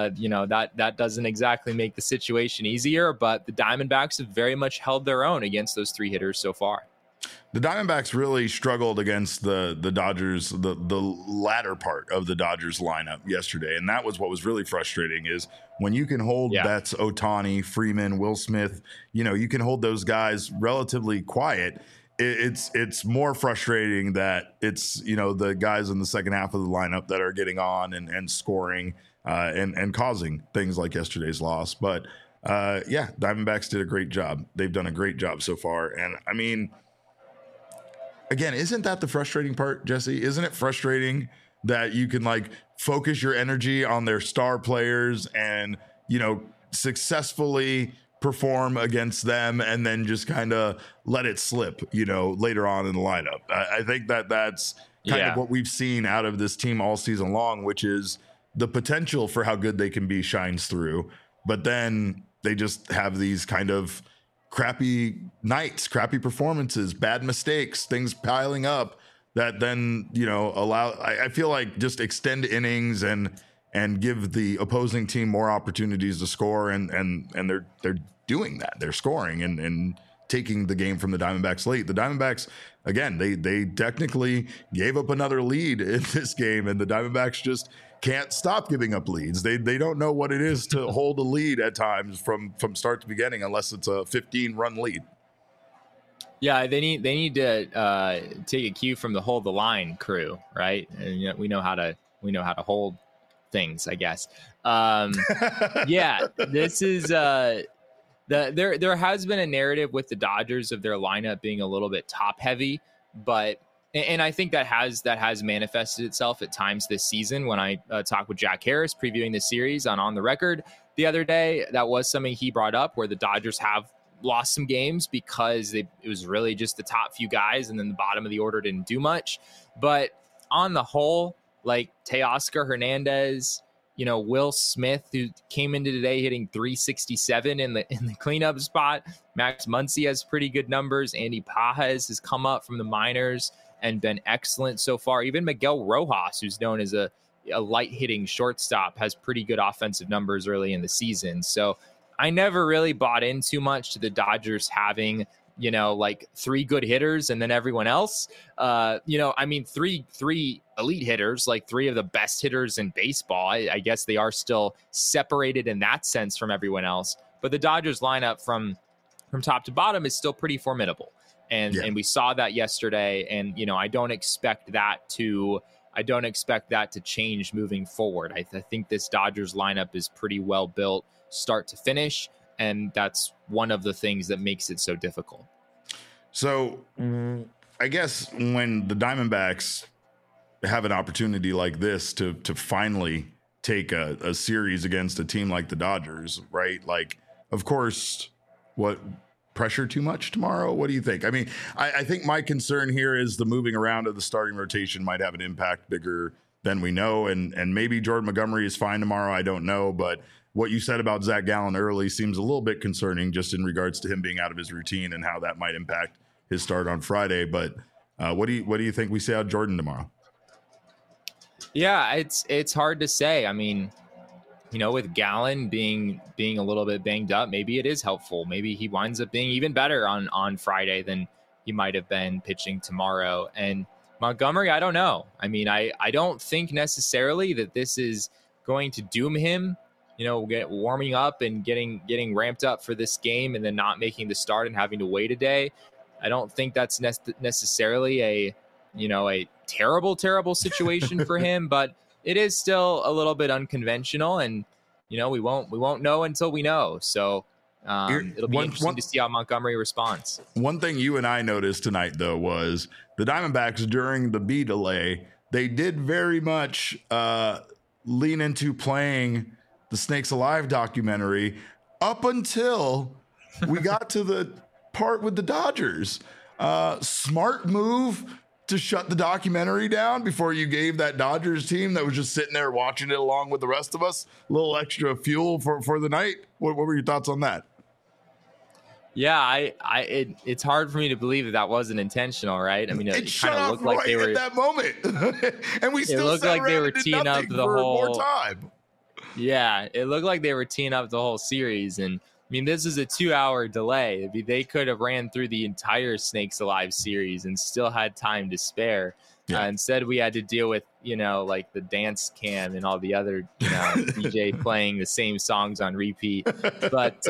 that doesn't exactly make the situation easier, but the Diamondbacks have very much held their own against those 3 hitters so far. The Diamondbacks really struggled against the Dodgers, the latter part of the Dodgers lineup yesterday. And that was what was really frustrating is when you can hold Betts, Ohtani, Freeman, Will Smith, you can hold those guys relatively quiet. It's more frustrating that it's, the guys in the second half of the lineup that are getting on and scoring and causing things like yesterday's loss. But Diamondbacks did a great job. They've done a great job so far. And I mean, again, isn't that the frustrating part, Jesse? Isn't it frustrating that you can focus your energy on their star players and, successfully perform against them and then just kind of let it slip, later on in the lineup? I think that's kind of what we've seen out of this team all season long, which is the potential for how good they can be shines through, but then they just have these kind of crappy nights, crappy performances, bad mistakes, things piling up that then, allow, I feel like just extend innings and give the opposing team more opportunities to score. And they're doing that. They're scoring and taking the game from the Diamondbacks late. The Diamondbacks, again, they technically gave up another lead in this game, and the Diamondbacks just can't stop giving up leads. They don't know what it is to hold a lead at times from start to beginning, unless it's a 15-run lead. Yeah, they need to take a cue from the hold the line crew, right? And we know how to hold things, I guess. Yeah, this is there has been a narrative with the Dodgers of their lineup being a little bit top heavy, and I think that has manifested itself at times this season. When I talked with Jack Harris previewing the series on the record the other day, that was something he brought up, where the Dodgers have lost some games because it was really just the top few guys, and then the bottom of the order didn't do much. But on the whole, like Teoscar Hernandez, Will Smith, who came into today hitting 367 in the cleanup spot. Max Muncy has pretty good numbers. Andy Pages has come up from the minors and been excellent so far. Even Miguel Rojas, who's known as a light hitting shortstop, has pretty good offensive numbers early in the season. So I never really bought in too much to the Dodgers having, like 3 good hitters and then everyone else. Three elite hitters, like 3 of the best hitters in baseball. I guess they are still separated in that sense from everyone else. But the Dodgers lineup from top to bottom is still pretty formidable. And we saw that yesterday. And, I don't expect that to change moving forward. I think this Dodgers lineup is pretty well built start to finish. And that's one of the things that makes it so difficult. So I guess when the Diamondbacks have an opportunity like this to finally take a series against a team like the Dodgers, right? Like, of course, pressure too much tomorrow? What do you think? I mean, I think my concern here is the moving around of the starting rotation might have an impact bigger than we know. And maybe Jordan Montgomery is fine tomorrow. I don't know. But what you said about Zach Gallen early seems a little bit concerning, just in regards to him being out of his routine and how that might impact his start on Friday. But what do you think we see out of Jordan tomorrow? Yeah, it's hard to say. I mean, with Gallen being a little bit banged up, maybe it is helpful. Maybe he winds up being even better on Friday than he might have been pitching tomorrow. And Montgomery, I don't know. I mean, I don't think necessarily that this is going to doom him, warming up and getting ramped up for this game and then not making the start and having to wait a day. I don't think that's necessarily a terrible situation for him, but it is still a little bit unconventional, and we won't know until we know. So it'll be interesting to see how Montgomery responds. One thing you and I noticed tonight, though, was the Diamondbacks during the B delay, they did very much lean into playing the Snakes Alive documentary up until we got to the part with the Dodgers. Smart move to shut the documentary down before you gave that Dodgers team that was just sitting there watching it along with the rest of us a little extra fuel for the night. What were your thoughts on that? Yeah, it's hard for me to believe that wasn't intentional, right? I mean, it kind of looked like they were at that moment, and we still looked like they were teeing up the whole more time. Yeah, it looked like they were teeing up the whole series, and I mean, this is a 2-hour delay. I mean, they could have ran through the entire Snakes Alive series and still had time to spare. Yeah. Instead, we had to deal with, like the dance cam and all the other, DJ playing the same songs on repeat. But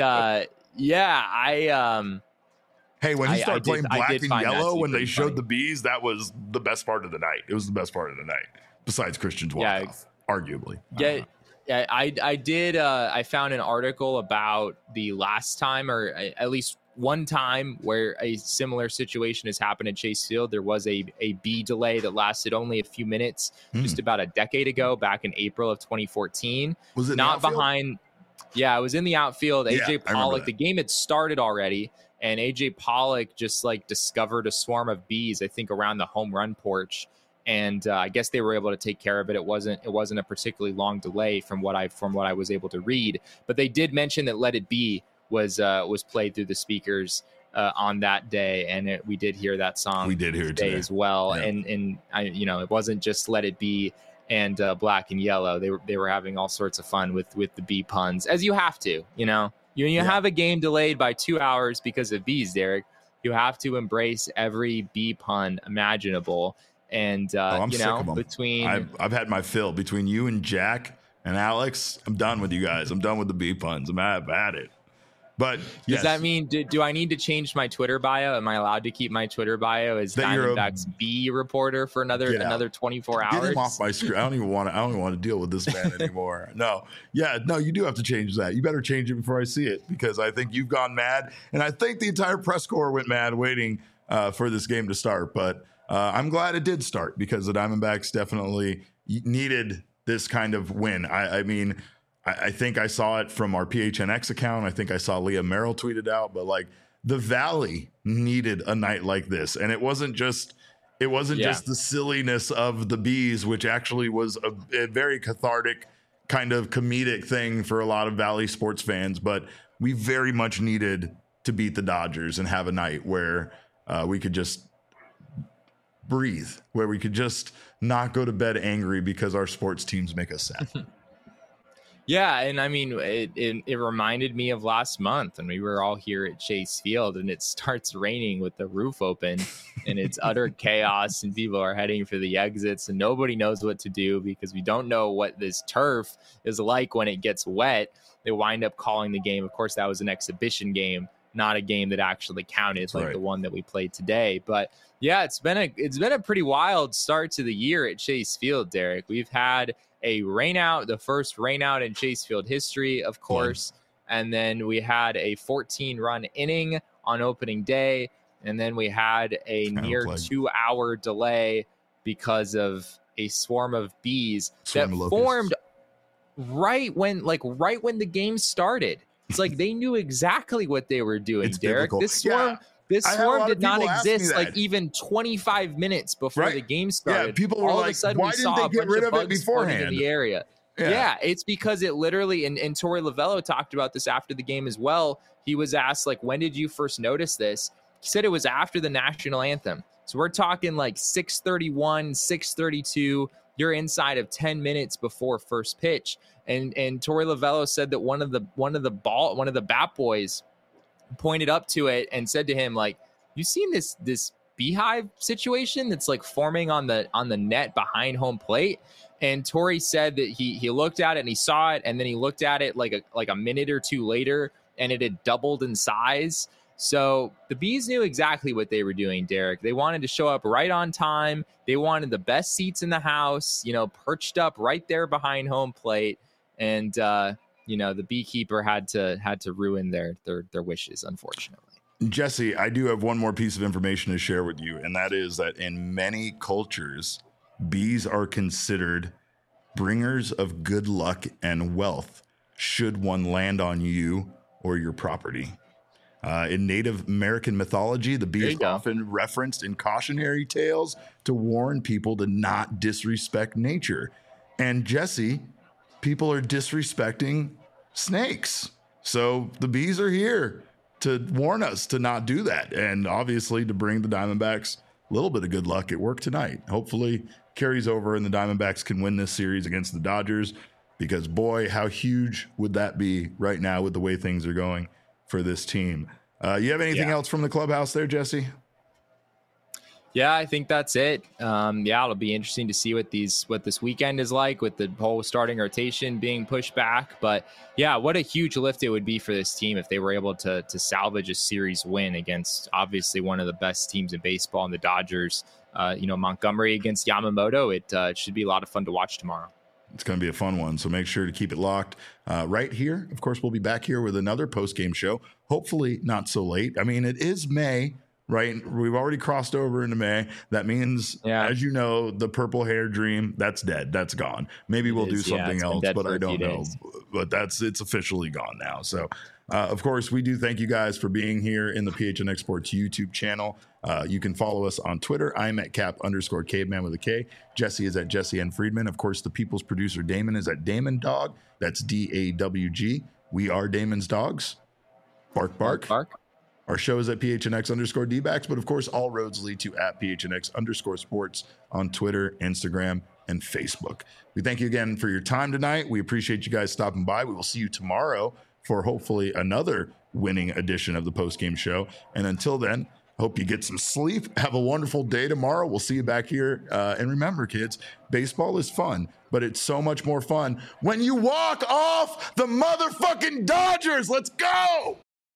hey, when you started playing Black and Yellow when they showed the bees, that was the best part of the night. It was the best part of the night, besides Christian's walk-off, arguably. Yeah. Yeah, I did. I found an article about the last time, or at least one time, where a similar situation has happened at Chase Field. There was a B delay that lasted only a few minutes, just about a decade ago, back in April of 2014. Was it not behind? Yeah, it was in the outfield. AJ Pollock. The game had started already, and AJ Pollock just discovered a swarm of bees, I think, around the home run porch. And I guess they were able to take care of it. It wasn't a particularly long delay from what I was able to read. But they did mention that "Let It Be" was played through the speakers on that day, and we did hear that song. We did hear it today as well. Yeah. And it wasn't just "Let It Be" and Black and Yellow. They were having all sorts of fun with the bee puns, as you have to. You have a game delayed by 2 hours because of bees, Derek. You have to embrace every bee pun imaginable. And I'm sick of them. Between I've had my fill between you and Jack and Alex. I'm done with you guys. I'm done with the bee puns. I've had it. But does that mean do I need to change my Twitter bio? Am I allowed to keep my Twitter bio as Diamondbacks B reporter for another 24 hours? Get him off my screen. I don't even want to deal with this man anymore. No, you do have to change that. You better change it before I see it, because I think you've gone mad, and I think the entire press corps went mad waiting for this game to start. But I'm glad it did start, because the Diamondbacks definitely needed this kind of win. I mean, I think I saw it from our PHNX account. I think I saw Leah Merrill tweeted out, but like the Valley needed a night like this. And it wasn't just the silliness of the Bees, which actually was a very cathartic kind of comedic thing for a lot of Valley sports fans. But we very much needed to beat the Dodgers and have a night where we could just breathe, where we could just not go to bed angry because our sports teams make us sad. Yeah, and I mean, it reminded me of last month when we were all here at Chase Field and it starts raining with the roof open and it's utter chaos and people are heading for the exits and nobody knows what to do because we don't know what this turf is like when it gets wet. They wind up calling the game. Of course, that was an exhibition game, not a game that actually counted like the one that we played today. But yeah, it's been a pretty wild start to the year at Chase Field, Derek. We've had a rainout, the first rainout in Chase Field history, of course. And then we had a 14-run inning on opening day. And then we had a near 2-hour delay because of a swarm of bees that formed right when the game started. It's like they knew exactly what they were doing, Derek. This swarm did not exist like even 25 minutes before the game started. Yeah, people were all like, of a sudden why we didn't saw they a get bunch rid of of it bugs beforehand? in the area. Yeah, it's because it literally, and Torey Lovello talked about this after the game as well. He was asked, like, when did you first notice this? He said it was after the national anthem. So we're talking like 6:31, 6:32. You're inside of 10 minutes before first pitch. And Torey Lovello said that one of the bat boys pointed up to it and said to him, like, you seen this beehive situation that's like forming on the net behind home plate? And Torey said that he looked at it and he saw it, and then he looked at it like a minute or two later, and it had doubled in size. So the Bees knew exactly what they were doing, Derek. They wanted to show up right on time. They wanted the best seats in the house, perched up right there behind home plate. And the beekeeper had to ruin their wishes, unfortunately. Jesse, I do have one more piece of information to share with you, and that is that in many cultures, bees are considered bringers of good luck and wealth should one land on you or your property. In Native American mythology, the bee is often referenced in cautionary tales to warn people to not disrespect nature. And Jesse, people are disrespecting snakes. So the bees are here to warn us to not do that. And obviously to bring the Diamondbacks a little bit of good luck. It worked tonight. Hopefully carries over and the Diamondbacks can win this series against the Dodgers, because boy, how huge would that be right now with the way things are going for this team. You have anything else from the clubhouse there, Jesse? Yeah, I think that's it. It'll be interesting to see what this weekend is like with the whole starting rotation being pushed back. But yeah, what a huge lift it would be for this team if they were able to salvage a series win against obviously one of the best teams in baseball in the Dodgers. Montgomery against Yamamoto. It should be a lot of fun to watch tomorrow. It's going to be a fun one, so make sure to keep it locked right here. Of course, we'll be back here with another post-game show, hopefully not so late. I mean, it is May, right? We've already crossed over into May. That means, as you know, the purple hair dream, that's dead. That's gone. Maybe we'll do something else, but I don't know. But it's officially gone now. So, of course, we do thank you guys for being here in the PHNX Sports YouTube channel. You can follow us on Twitter. I'm at Cap_Caveman with a K. Jesse is at Jesse N. Friedman. Of course, the people's producer, Damon, is at Damon Dog. That's DAWG. We are Damon's Dogs. Bark, bark. Bark. Our show is at PHNX_DBacks, but of course, all roads lead to at PHNX_sports on Twitter, Instagram, and Facebook. We thank you again for your time tonight. We appreciate you guys stopping by. We will see you tomorrow for hopefully another winning edition of the postgame show. And until then, hope you get some sleep. Have a wonderful day tomorrow. We'll see you back here. And remember, kids, baseball is fun, but it's so much more fun when you walk off the motherfucking Dodgers. Let's go.